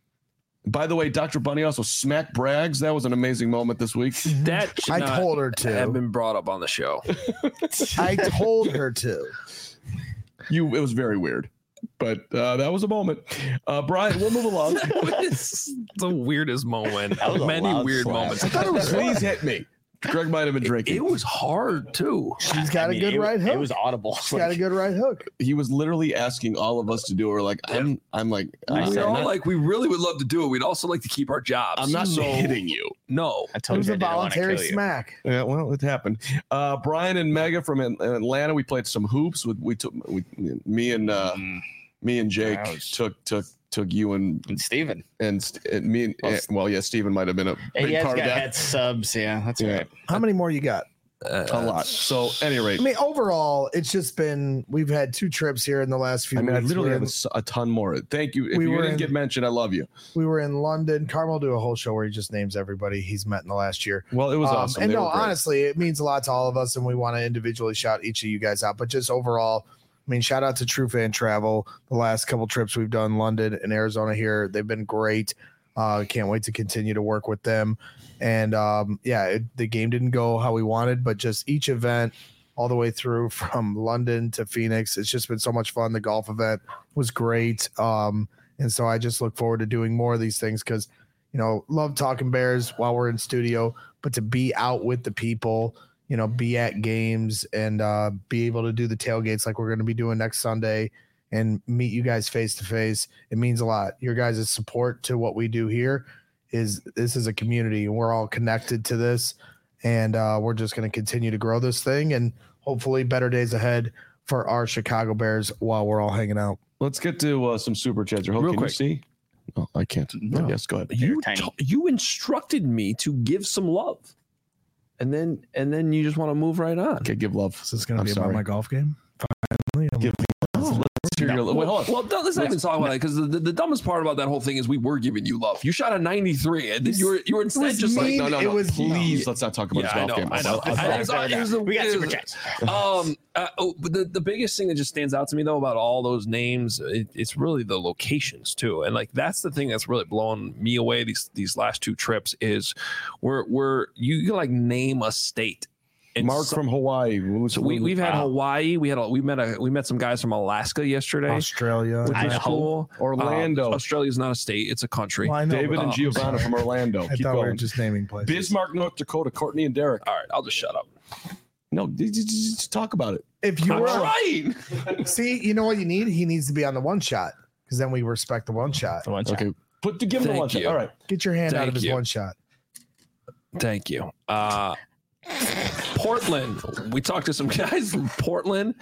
By the way, Doctor Bunny also smacked Braggs. That was an amazing moment this week. That should I not told her to. have been brought up on the show. I told her to. You, it was very weird, but uh, that was a moment. Uh, Brian, we'll move along. It's the weirdest moment. That was a Many loud weird slap. moments. I thought it was please hit me. Greg might have been drinking. It, it was hard too. She's got I mean, a good it, right hook. It was audible. She's got a good right hook. He was literally asking all of us to do it. We're like, I'm, I'm like, We uh, were I'm all not, like, we really would love to do it. We'd also like to keep our jobs. I'm not so, hitting you. No. I It told was you a I didn't want to voluntary kill you. smack. Yeah, well, it happened. Uh, Brian and Mega from At- Atlanta. We played some hoops. We, we took we, me and uh, Mm, me and Jake Ouch. took took took you and and Steven. and, St- and me and Well, eh, well, yeah, Steven might have been a big He has part got of that. had subs. Yeah, that's Yeah. right. How many more you got? Uh, A lot. So, at any rate, I mean, overall, it's just been we've had two trips here in the last few I mean, I weeks. literally We're have a, in- s- a ton more. Thank you. If We you were didn't in- get mentioned, I love you. we were in London. Carmel do a whole show where he just names everybody he's met in the last year. Well, it was Um, awesome. And They no, were great. honestly, it means a lot to all of us, and we want to individually shout each of you guys out. But just overall, I mean, shout out to True Fan Travel. The last couple trips we've done, London and Arizona here, they've been great. Uh, can't wait to continue to work with them. And um, yeah, it, the game didn't go how we wanted, but just each event all the way through from London to Phoenix, it's just been so much fun. The golf event was great. Um, and so I just look forward to doing more of these things because, you know, love talking Bears while we're in studio, but to be out with the people, you know, be at games and uh, be able to do the tailgates like we're going to be doing next Sunday and meet you guys face to face. It means a lot. Your guys' support to what we do here is this is a community and we're all connected to this. And uh, we're just going to continue to grow this thing and hopefully better days ahead for our Chicago Bears while we're all hanging out. Let's get to uh, some super chats. Real Real can quick. you see? Oh, I can't. No. Yes, go ahead. You tiny. t- you instructed me to give some love, and then and then you just want to move right on. Okay, give love. Is this going to I'm be sorry. about my golf game? Finally, I'm- Give Let's hear your- wait, hold on. Well, don't- let's not even talk about it because the, the, the dumbest part about that whole thing is we were giving you love. You shot a ninety-three, and then you were you were instead was just like, mean. No, no, it no. was- Please, let's not talk about yeah, I his know, golf game. I know. I'll- I'll- I- it's- it was the- We got it super was- chats. Um, uh, oh, but the, the biggest thing that just stands out to me though about all those names, it, it's really the locations too, and like that's the thing that's really blowing me away these these last two trips is where where you can like name a state. And Mark so- from Hawaii. Who's- so we we've had Wow. Hawaii. We had a, we met a we met some guys from Alaska yesterday, Australia. which was Idaho. cool. Orlando. Uh, Australia's not a state; it's a country. Well, I know, David but- and Oh, Giovanna from Orlando. I Keep thought we were going. just naming places. Bismarck, North Dakota. Courtney and Derek. All right, I'll just shut up. No, just, just- just talk about it. If you I'm were trying. see, you know what you need? He needs to be on the one shot because then we respect the one shot. The one shot. Okay, put to give him the Thank lunch. you. All right. Get your hand out Thank of his you. one shot. Thank you. Uh, Portland. We talked to some guys from Portland.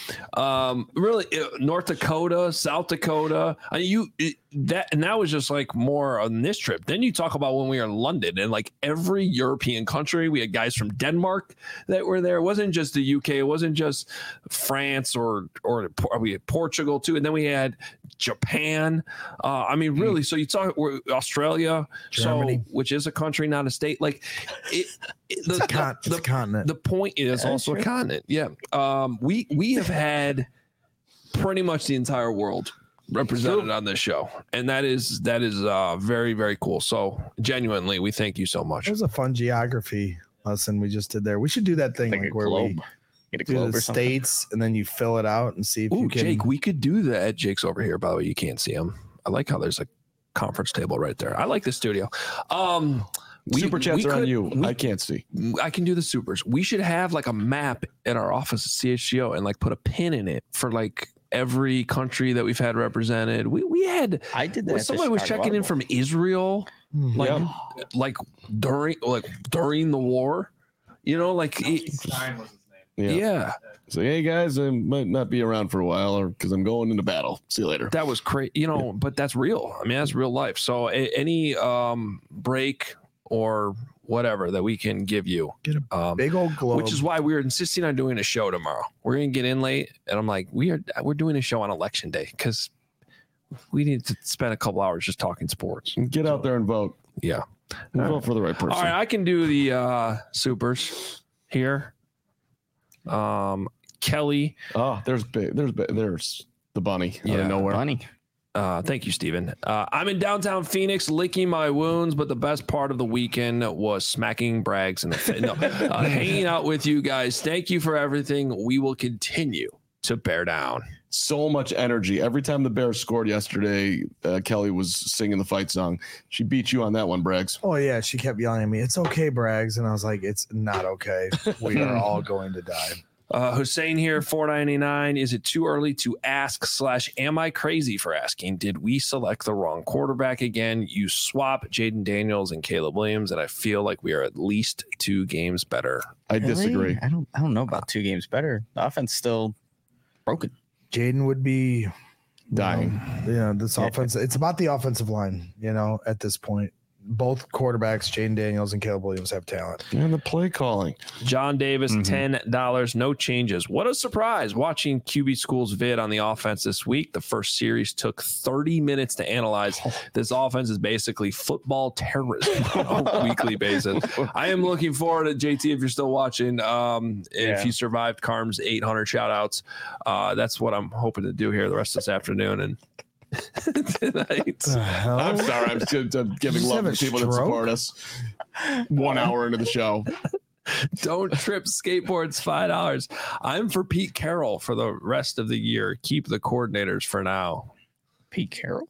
Um, really, uh, North Dakota, South Dakota. I mean, you it, that and that was just like more on this trip. Then you talk about when we were in London and like every European country. We had guys from Denmark that were there. It wasn't just the U K. It wasn't just France or or we had Portugal too. And then we had Japan. Uh, I mean, really. So you talk we're, Australia, Germany. so which is a country, not a state. Like it. it the, It's a, con- the- it's a continent. the point is Yeah, also sure. a continent. Yeah. Um, we we have had pretty much the entire world represented on this show. And that is that is uh very, very cool. So genuinely, we thank you so much. It was a fun geography lesson we just did there. We should do that thing Like like, a where globe. we Get a do globe the or something. states and then you fill it out and see if Ooh, you can. Jake, we could do that. Jake's over here, by the way. You can't see him. I like how there's a conference table right there. I like the studio. Um we, Super chats we are on could- you. we- I can't see. I can do the supers. We should have like a map in our office at C H G O and like put a pin in it for like every country that we've had represented. We we had I did that. when at the somebody was Chicago checking in Audible. from Israel, Hmm. like Yeah. like during like during the war, you know, like it- Yeah. yeah, So, hey, guys, I might not be around for a while or because I'm going into battle. See you later. that was crazy, you know. But that's real. I mean, that's real life. So a- any um break or whatever that we can give you, Get a um, big old globe. which is why we were insisting on doing a show tomorrow. We're gonna get in late, and I'm like, we are we're doing a show on election day because we need to spend a couple hours just talking sports. Get out there and vote. Yeah. And All vote right. for the right person. All right, I can do the uh supers here. Um, Kelly, Oh, there's big. There's big, there's the bunny out Yeah, of nowhere. Funny. uh, thank you, Steven. Uh, I'm in downtown Phoenix, licking my wounds, but the best part of the weekend was smacking Braggs in the face. No, uh, hanging out with you guys. Thank you for everything. We will continue to bear down. so much energy. Every time the Bears scored yesterday, uh, Kelly was singing the fight song. She beat you on that one, Braggs. Oh, yeah. She kept yelling at me, "It's okay, Braggs." And I was like, "It's not okay. We are all going to die." Uh, Hussein here, four ninety-nine. Is it too early to ask slash am I crazy for asking? Did we select the wrong quarterback again? You swap Jaden Daniels and Caleb Williams, and I feel like we are at least two games better. I Really? disagree. I don't. I don't know about two games better. The offense still broken. Jaden would be Dying. Um, yeah, this offense. It's about the offensive line. You know, at this point, both quarterbacks, Jaden Daniels and Caleb Williams, have talent. And the play calling. John Davis, Mhm. ten dollars, no changes. What a surprise watching Q B School's vid on the offense this week. The first series took thirty minutes to analyze. This offense is basically football terrorism on a weekly basis. I am looking forward to J T if you're still watching. Um, if Yeah. you survived Carm's eight hundred shout outs, uh, that's what I'm hoping to do here the rest of this afternoon. And tonight. I'm sorry. I'm, just, I'm giving Just love have to a people that stroke? support us. One hour into the show. Don't trip skateboards, five dollars. I'm for Pete Carroll for the rest of the year. Keep the coordinators for now. Pete Carroll.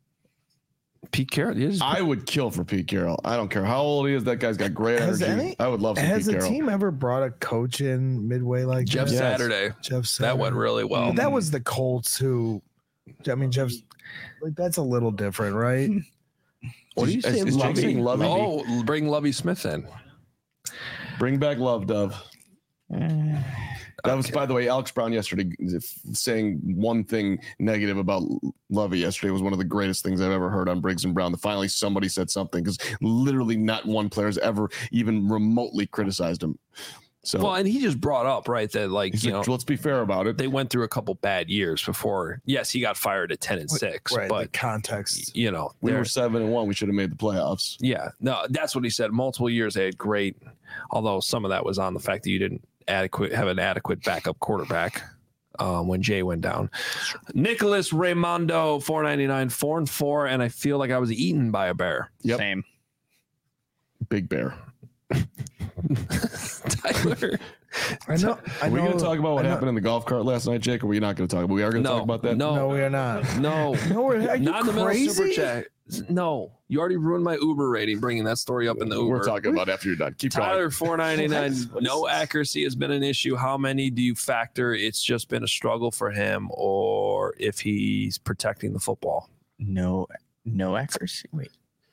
Pete Carroll. He is, I would kill for Pete Carroll. I don't care how old he is. That guy's got great Has energy. any- I would love for Has Pete the Carroll. team ever brought a coach in midway like Jeff that? Yes. Saturday. Jeff Saturday. That went really well. But that was the Colts who. I mean, Jeff's like that's a little different, right? What do you Is- say, is Jake saying Lovey? Oh, bring Lovey Smith in. Bring back Love Dove. That was, by the way, Alex Brown yesterday saying one thing negative about Lovey yesterday was one of the greatest things I've ever heard on Briggs and Brown. That finally somebody said something, because literally not one player has ever even remotely criticized him. So, Well, and he just brought up, right, that like, he's you like, know, let's be fair about it. they went through a couple bad years before. Yes, he got fired at ten and six, Right. the but context. you know, We they're- were seven and one. We should have made the playoffs. yeah, no, that's what he said. Multiple years they had great, although some of that was on the fact that you didn't adequate have an adequate backup quarterback um, when Jay went down. Nicholas Raimondo, four ninety-nine, four and four, and I feel like I was eaten by a bear. Yep. Same. Big Bear. Tyler, I know. I Are we know. going to talk about what I know- happened in the golf cart last night, Jake? Or are we not going to talk about? We are going to no, talk about that. no, No, we are not. no, No, we're, are you not in the middle of super crazy? chat. No, you already ruined my Uber rating, bringing that story up in the Uber. We're talking about after you're done. Keep Tyler, going. four ninety-nine. What is No this? accuracy has been an issue. How many do you factor? It's just been a struggle for him, or if he's protecting the football. No. No accuracy. Wait.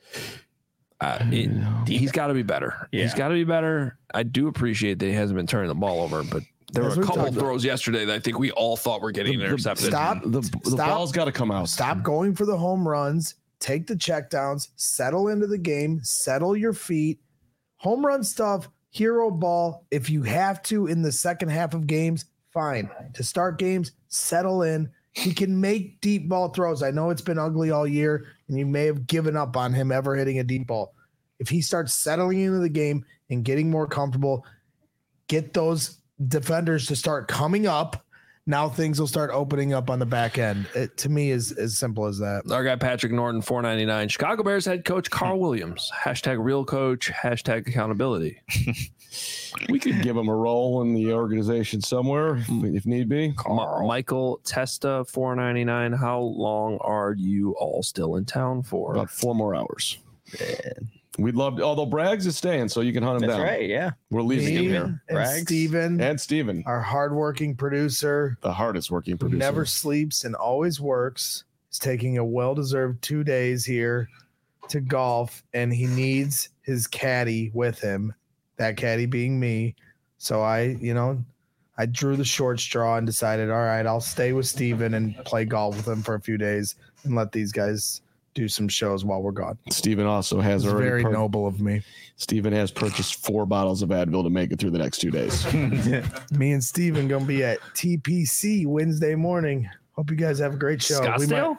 Uh, it- he's got to be better. He's Yeah. got to be better. I do appreciate that he hasn't been turning the ball over, but there As were a we've couple talked about- throws yesterday that I think we all thought were getting The- the- intercepted. Stop. The, the Stop. ball's got to come out. Stop going for the home runs. Take the checkdowns. Settle into the game. Settle your feet. Home run stuff. Hero ball. If you have to in the second half of games, fine. To start games, settle in. He can make deep ball throws. I know it's been ugly all year, and you may have given up on him ever hitting a deep ball. If he starts settling into the game and getting more comfortable, get those defenders to start coming up. Now things will start opening up on the back end. It to me is as simple as that. Our guy Patrick Norton, four ninety-nine. Chicago Bears head coach Carl Williams. Hashtag real coach. Hashtag accountability. We could give him a role in the organization somewhere if, if need be. Ma- Michael Testa, four ninety-nine. How long are you all still in town for? About four more hours. We'd love to, although Braggs is staying, so you can hunt him That's down. right. Yeah. We're leaving him Me here. and Braggs. Steven, And Steven, our hardworking producer, the hardest working who producer. never sleeps and always works, is taking a well-deserved two days here to golf, and he needs his caddy with him. That caddy being me. So I, you know, I drew the short straw and decided, all right, I'll stay with Steven and play golf with him for a few days and let these guys do some shows while we're gone. Steven also has It's already very pur- noble of me. Steven has purchased four bottles of Advil to make it through the next two days. Me and Steven gonna be at T P C Wednesday morning. Hope you guys have a great show. We Scottsdale?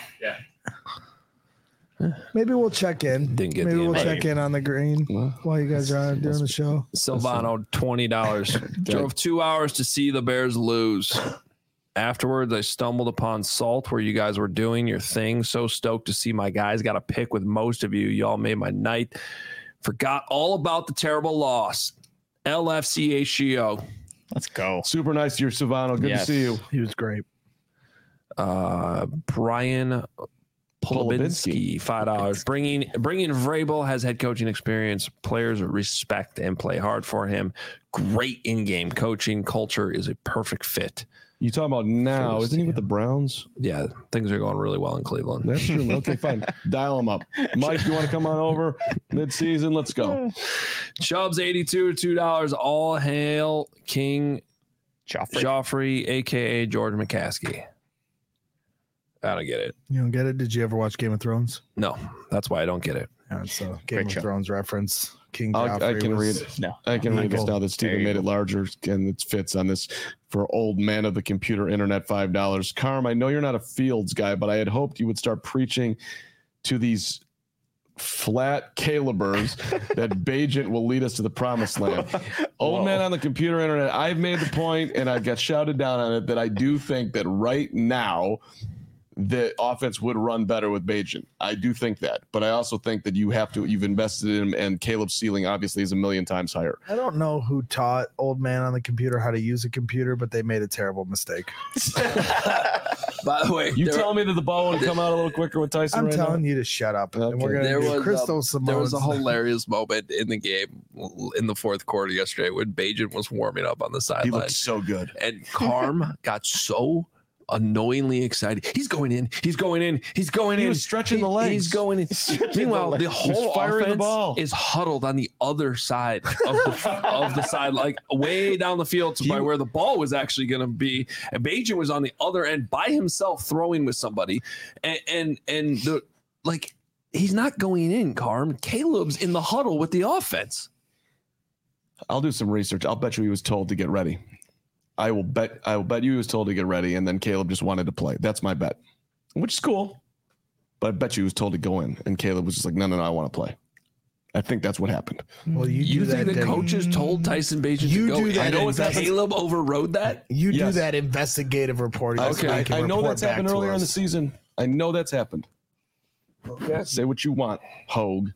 might, maybe we'll check in. Didn't get maybe the we'll invite. check in on the green Well, while you guys are doing the show. Silvano, twenty dollars. Drove two hours to see the Bears lose. Afterwards, I stumbled upon Salt where you guys were doing your thing. So stoked to see my guys. Got a pick with most of you. Y'all made my night. Forgot all about the terrible loss. L F C H G O. Let's go. super nice to you, Silvano. Good Yes. to see you. He was great. Uh, Brian Polubinski, five dollars. Bringing bringing Vrabel has head coaching experience. Players respect and play hard for him. Great in-game coaching. Culture is a perfect fit. You talking about now? Isn't he with the Browns? Yeah, things are going really well in Cleveland. That's true. Okay, fine. Dial him up. Mike, you want to come on over mid-season? Let's go. Chubbs eighty-two, two dollars. All hail King Joffrey. Joffrey, a k a. George McCaskey. I don't get it. You don't get it? Did you ever watch Game of Thrones? No, that's why I don't get it. Yeah, it's a Game Great of show. Thrones reference. King I'll, Joffrey I can was- read it. No. I can read this Michael. now that Steven There you made go. it larger and it fits on this for old man of the computer internet five dollars. Carm, I know you're not a Fields guy, but I had hoped you would start preaching to these flat Calibers that Bajent will lead us to the promised land. Old Whoa. man on the computer internet, I've made the point and I got shouted down on it that I do think that right now the offense would run better with Bajent. I do think that, but I also think that you have to, you've invested in him, and Caleb's ceiling obviously is a million times higher. I don't know who taught old man on the computer how to use a computer, but they made a terrible mistake. By the way, You there, tell me that the ball would come out a little quicker with Tyson I'm right telling now? you to shut up. Okay. And we're gonna There do was, Crystal um, Simone's. there was a hilarious moment in the game in the fourth quarter yesterday when Bajent was warming up on the He sideline. looked so good. And Carm got so annoyingly excited. He's going in. He's going in. He's going He in. was stretching He- the legs. He's going in. Meanwhile, the whole firing the offense ball. is huddled on the other side of the of the side, like way down the field to He- by where the ball was actually going to be. And Bajent was on the other end by himself, throwing with somebody, and and and the like. He's not going in, Carm. Caleb's in the huddle with the offense. I'll do some research. I'll bet you he was told to get ready. I will bet I will bet you he was told to get ready, and then Caleb just wanted to play. That's my bet, which is cool. But I bet you he was told to go in, and Caleb was just like, no, no, no, I want to play. I think that's what happened. Well, you, You do think that. the that- coaches told Tyson Bajent You to go do in? that I know it's investi- Caleb overrode that. You Yes. do that investigative reporting. Okay, so I, you can I know report that's back happened to earlier in the us. season. I know that's happened. Okay. Say what you want, Hogue.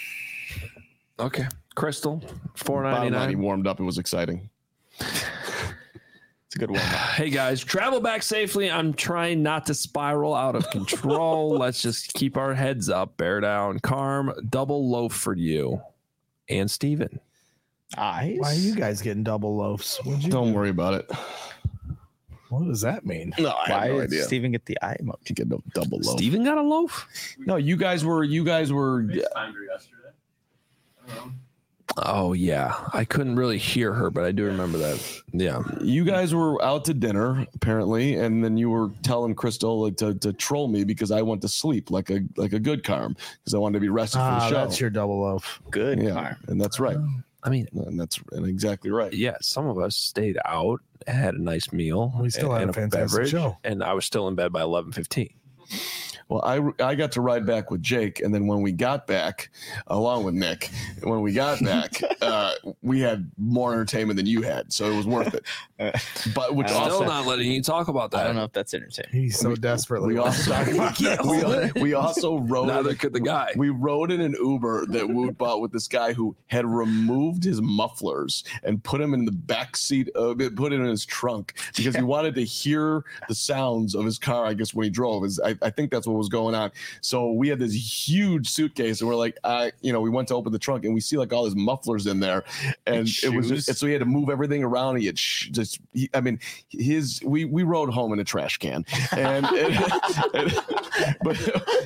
Okay, Crystal, four ninety Bottom line, he nine. warmed up. It was exciting. It's a good one. Hey guys, travel back safely. I'm trying not to spiral out of control. Let's just keep our heads up. Bear down. Carm, double loaf for you and Steven. Eyes. Why are you guys getting double loaves? What'd you Don't worry about it. What does that mean? No, I Why have no did idea. Steven get the eye emoji? You get no double loaf. Steven got a loaf? No, you guys were. You guys were. yesterday. I don't know. Oh yeah, I couldn't really hear her, but I do remember that. Yeah, You guys were out to dinner apparently, and then you were telling Crystal like, to, to troll me because I went to sleep like a like a good Carm because I wanted to be rested for Ah, the show. that's your double loaf. Good. yeah, Carm. and that's right, I mean, and that's and exactly right. yeah, some of us stayed out, had a nice meal, We still and, had and a fantastic show. and I was still in bed by eleven fifteen. Well, I I got to ride back with Jake, and then when we got back, along with Nick, when we got back, uh, we had more entertainment than you had, so it was worth it. But which I don't Still also not letting you talk about that. I don't know if that's entertaining. He's so We- desperately. we also we, we also rode Neither could the guy. We rode in an Uber that Woot bought with this guy who had removed his mufflers and put him in the back seat, uh, put it in his trunk because he wanted to hear the sounds of his car. I guess when he drove, is I, I think that's what was going on. So we had this huge suitcase, and we're like, I, you know, we went to open the trunk, and we see like all his mufflers in there, and And it was shoes. just, so he had to move everything around. He had sh- just, he, I mean, his we we rode home in a trash can, and, and, and but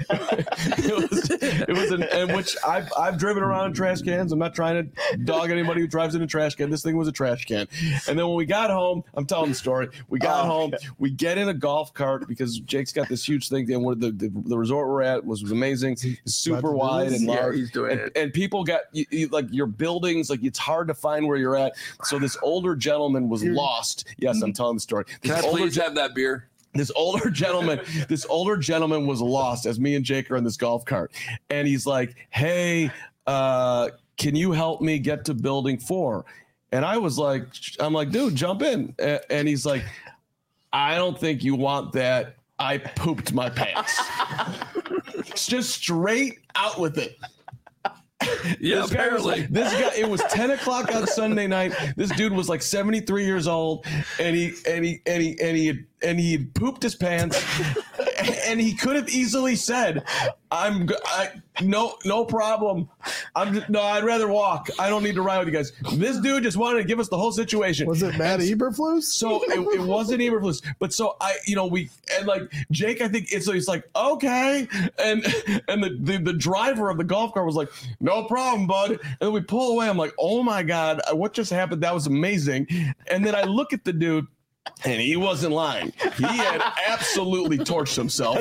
it was it was an and which I've I've driven around in trash cans. I'm not trying to dog anybody who drives in a trash can. This thing was a trash can, and then when we got home, I'm telling the story. We got Oh, home, we get in a golf cart because Jake's got this huge thing, and where the, the the resort we're at was, was amazing, it's super wide and Yeah, large. he's doing and, it. and people got you, you, like your buildings, like it's hard to find where you're at. So this older gentleman was lost. Yes, I'm telling the story. This Can I older please have that beer? this older gentleman this older gentleman was lost as me and Jake are in this golf cart, and he's like, hey, uh can you help me get to building four? And I was like, I'm like, dude, jump in. A- and he's like, I don't think you want that, I pooped my pants. Just straight out with it. Yeah, this guy was apparently. like, this guy. It was ten o'clock on Sunday night. This dude was like seventy-three years old, and he and he and he and he had, and he had pooped his pants, and he could have easily said, "I'm I, no no problem. I'm just, no. I'd rather walk. I don't need to ride with you guys." This dude just wanted to give us the whole situation. Was it Matt Eberflus? So it, it wasn't Eberflus, but so I, you know, we and like Jake, I think it's so he's like, okay, and and the, the the driver of the golf cart was like, no problem, bud. And then we pull away. I'm like, oh my god, what just happened? That was amazing. And then I look at the dude. And he wasn't lying. He had absolutely torched himself.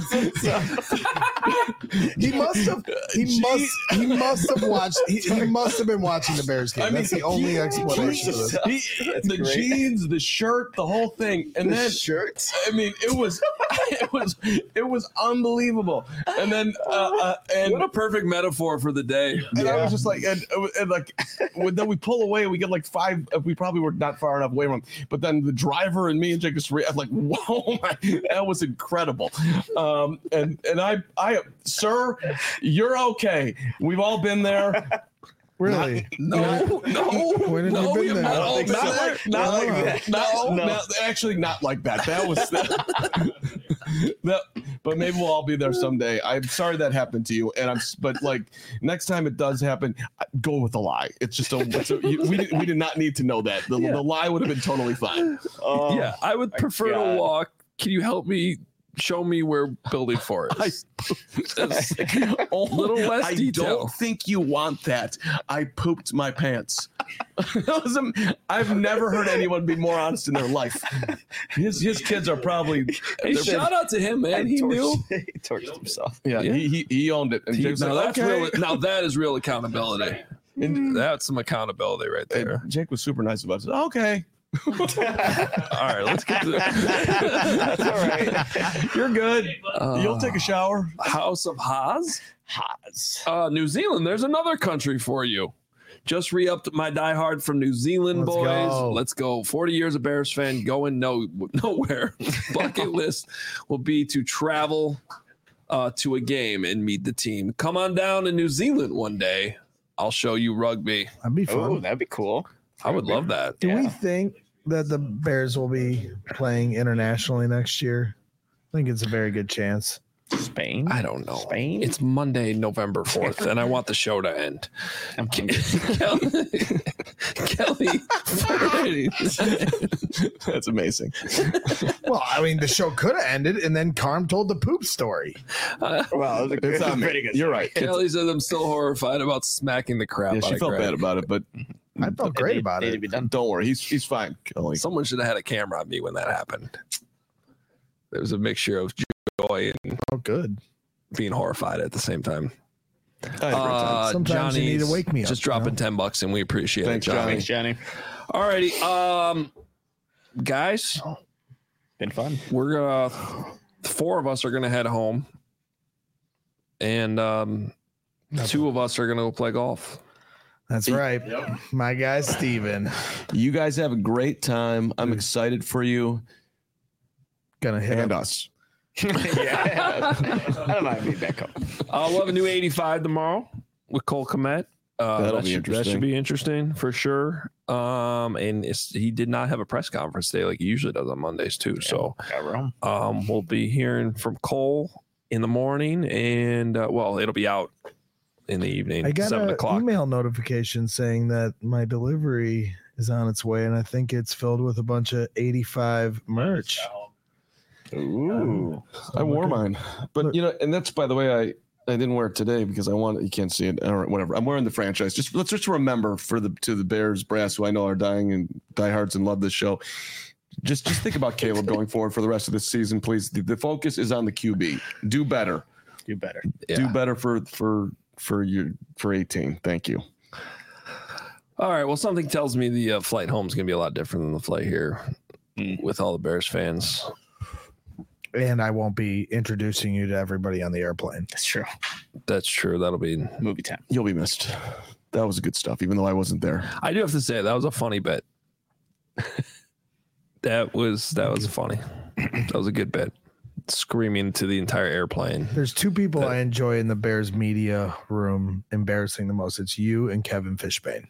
he must have. He must. He must have watched. He, he must have been watching the Bears game. I mean, That's the only he, explanation. He, of this. He, the great. jeans, the shirt, the whole thing, and the then shirts. I mean, it was, it was, it was unbelievable. And then, uh, uh, and what a perfect metaphor for the day. And yeah. I was just like, and, and like, then we pull away. We get like five. We probably were not far enough away from him. But then the driver and me and Jake just re- I'm like, whoa, my, that was incredible. Um, and and I, I, sir, you're okay. We've all been there. Really? Not, no, no, when have no, you been there? not, I not, so. like, not no. like that. No, no, no, actually, not like that. That was that, that. But maybe we'll all be there someday. I'm sorry that happened to you, and I'm. But like next time it does happen, go with a lie. It's just a. It's a you, we we did not need to know that. The, yeah. the lie would have been totally fine. Oh, yeah, I would prefer God. to walk. Can you help me? Show me where building four is. I, oh, little less I detail. don't think you want that. I pooped my pants. I've never heard anyone be more honest in their life. His his kids are probably. Hey, shout out to him, man. He torched, knew. He torched himself. Yeah, yeah. He, he he owned it. And he, now, like, that's okay. real, now that is real accountability. And that's some accountability right there. And Jake was super nice about it. Okay. All right, let's get to That's all right. You're good. Uh, You'll take a shower. House of Haas? Haas. Uh, New Zealand. There's another country for you. Just re-upped my diehard from New Zealand, Let's boys. go. Let's go. forty years of Bears fan, going no nowhere. Bucket list will be to travel uh, to a game and meet the team. Come on down to New Zealand one day. I'll show you rugby. That'd be fun. Oh, that'd be cool. I would love that. Do yeah. we think that the Bears will be playing internationally next year? I think it's a very good chance. Spain? I don't know. Spain? It's Monday, November fourth, and I want the show to end. I'm Kelly, Kelly that's amazing. Well, I mean, the show could have ended, and then Carm told the poop story. Uh, well, it was a, it's a pretty pretty good. You're right. Kelly said I'm still horrified about smacking the crap Yeah, out she of felt Greg. bad about it, but I felt great They- about they it. need to be done. don't worry. He's he's fine, Kelly. Someone should have had a camera on me when that happened. There was a mixture of joy and Oh, good. being horrified at the same time. I had a great time. Uh, Sometimes you need to Johnny's wake me up, Just you dropping know? ten bucks, and we appreciate Thanks, it, Johnny. Johnny. Thanks, Johnny. All righty, um, guys, Been fun. we're gonna four of us are gonna head home, and um, two of us are gonna go play golf. That's right. My guy, Steven. You guys have a great time. I'm excited for you Gonna hit and him. us. Yeah. I don't mind being back home. Uh, we'll have a new eighty-five tomorrow with Cole Kmet. Uh, That'll that be should, That interesting. should be interesting for sure. Um, and it's, he did not have a press conference today like he usually does on Mondays too. So Yeah, we're home. um, we'll be hearing from Cole in the morning, and uh, well, it'll be out in the evening, I got seven an o'clock. email notification saying that my delivery is on its way, and I think it's filled with a bunch of eighty-five merch. Ooh. I wore Look at- mine, but look- you know, and that's by the way, I I didn't wear it today because I want you can't see it or whatever. I'm wearing the franchise. Just let's just remember for the to the Bears brass who I know are dying and diehards and love this show. Just just think about Caleb going forward for the rest of this season, please. The, the focus is on the Q B. Do better. Do better. Yeah. Do better for for for your for eighteen. Thank you. All right. Well, something tells me the uh, flight home is going to be a lot different than the flight here Mm. with all the Bears fans. And I won't be introducing you to everybody on the airplane. That's true. That's true. That'll be. Movie time. You'll be missed. That was good stuff, even though I wasn't there. I do have to say that was a funny bit. that was that was funny. That was a good bit. screaming to the entire airplane. There's two people That- I enjoy in the Bears media room embarrassing the most. It's you and Kevin Fishbane.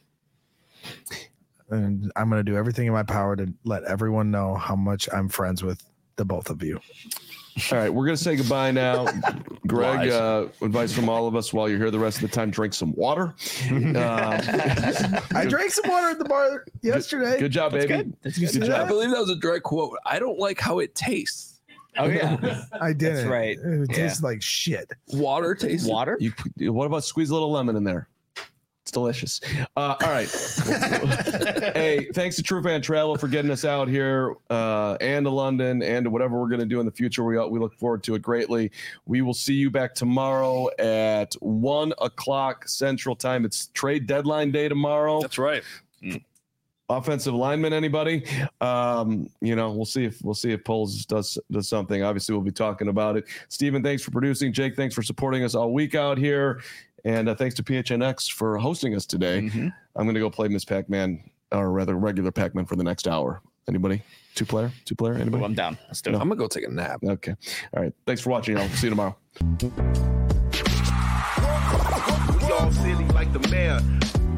And I'm going to do everything in my power to let everyone know how much I'm friends with the both of you. All right, we're going to say goodbye now. Greg, Lies. uh, advice from all of us while you're here the rest of the time, drink some water. Uh, I drank some water at the bar yesterday. good job, That's baby. good. That's You good. see Good I job. believe that was a direct quote. I don't like how it tastes. Oh yeah. I did. That's right. It Yeah. tastes like shit. Water tastes. Water? You, what about squeeze a little lemon in there? It's delicious. Uh, all right. Hey, thanks to True Fan Travel for getting us out here uh, and to London and to whatever we're going to do in the future. We, we look forward to it greatly. We will see you back tomorrow at one o'clock Central Time. It's trade deadline day tomorrow. That's right. Offensive lineman, anybody? Um, you know, we'll see if we'll see if Poles does does something. Obviously, we'll be talking about it. Steven, thanks for producing. Jake, thanks for supporting us all week out here. And uh, thanks to P H N X for hosting us today. Mhm. I'm going to go play Miss Pac-Man, or rather regular Pac-Man for the next hour. Anybody? Two player? Two player? Anybody? Well, I'm down. Let's do it. I'm gonna go take a nap. Okay. All right. Thanks for watching, y'all. See you tomorrow. We all silly like the mayor.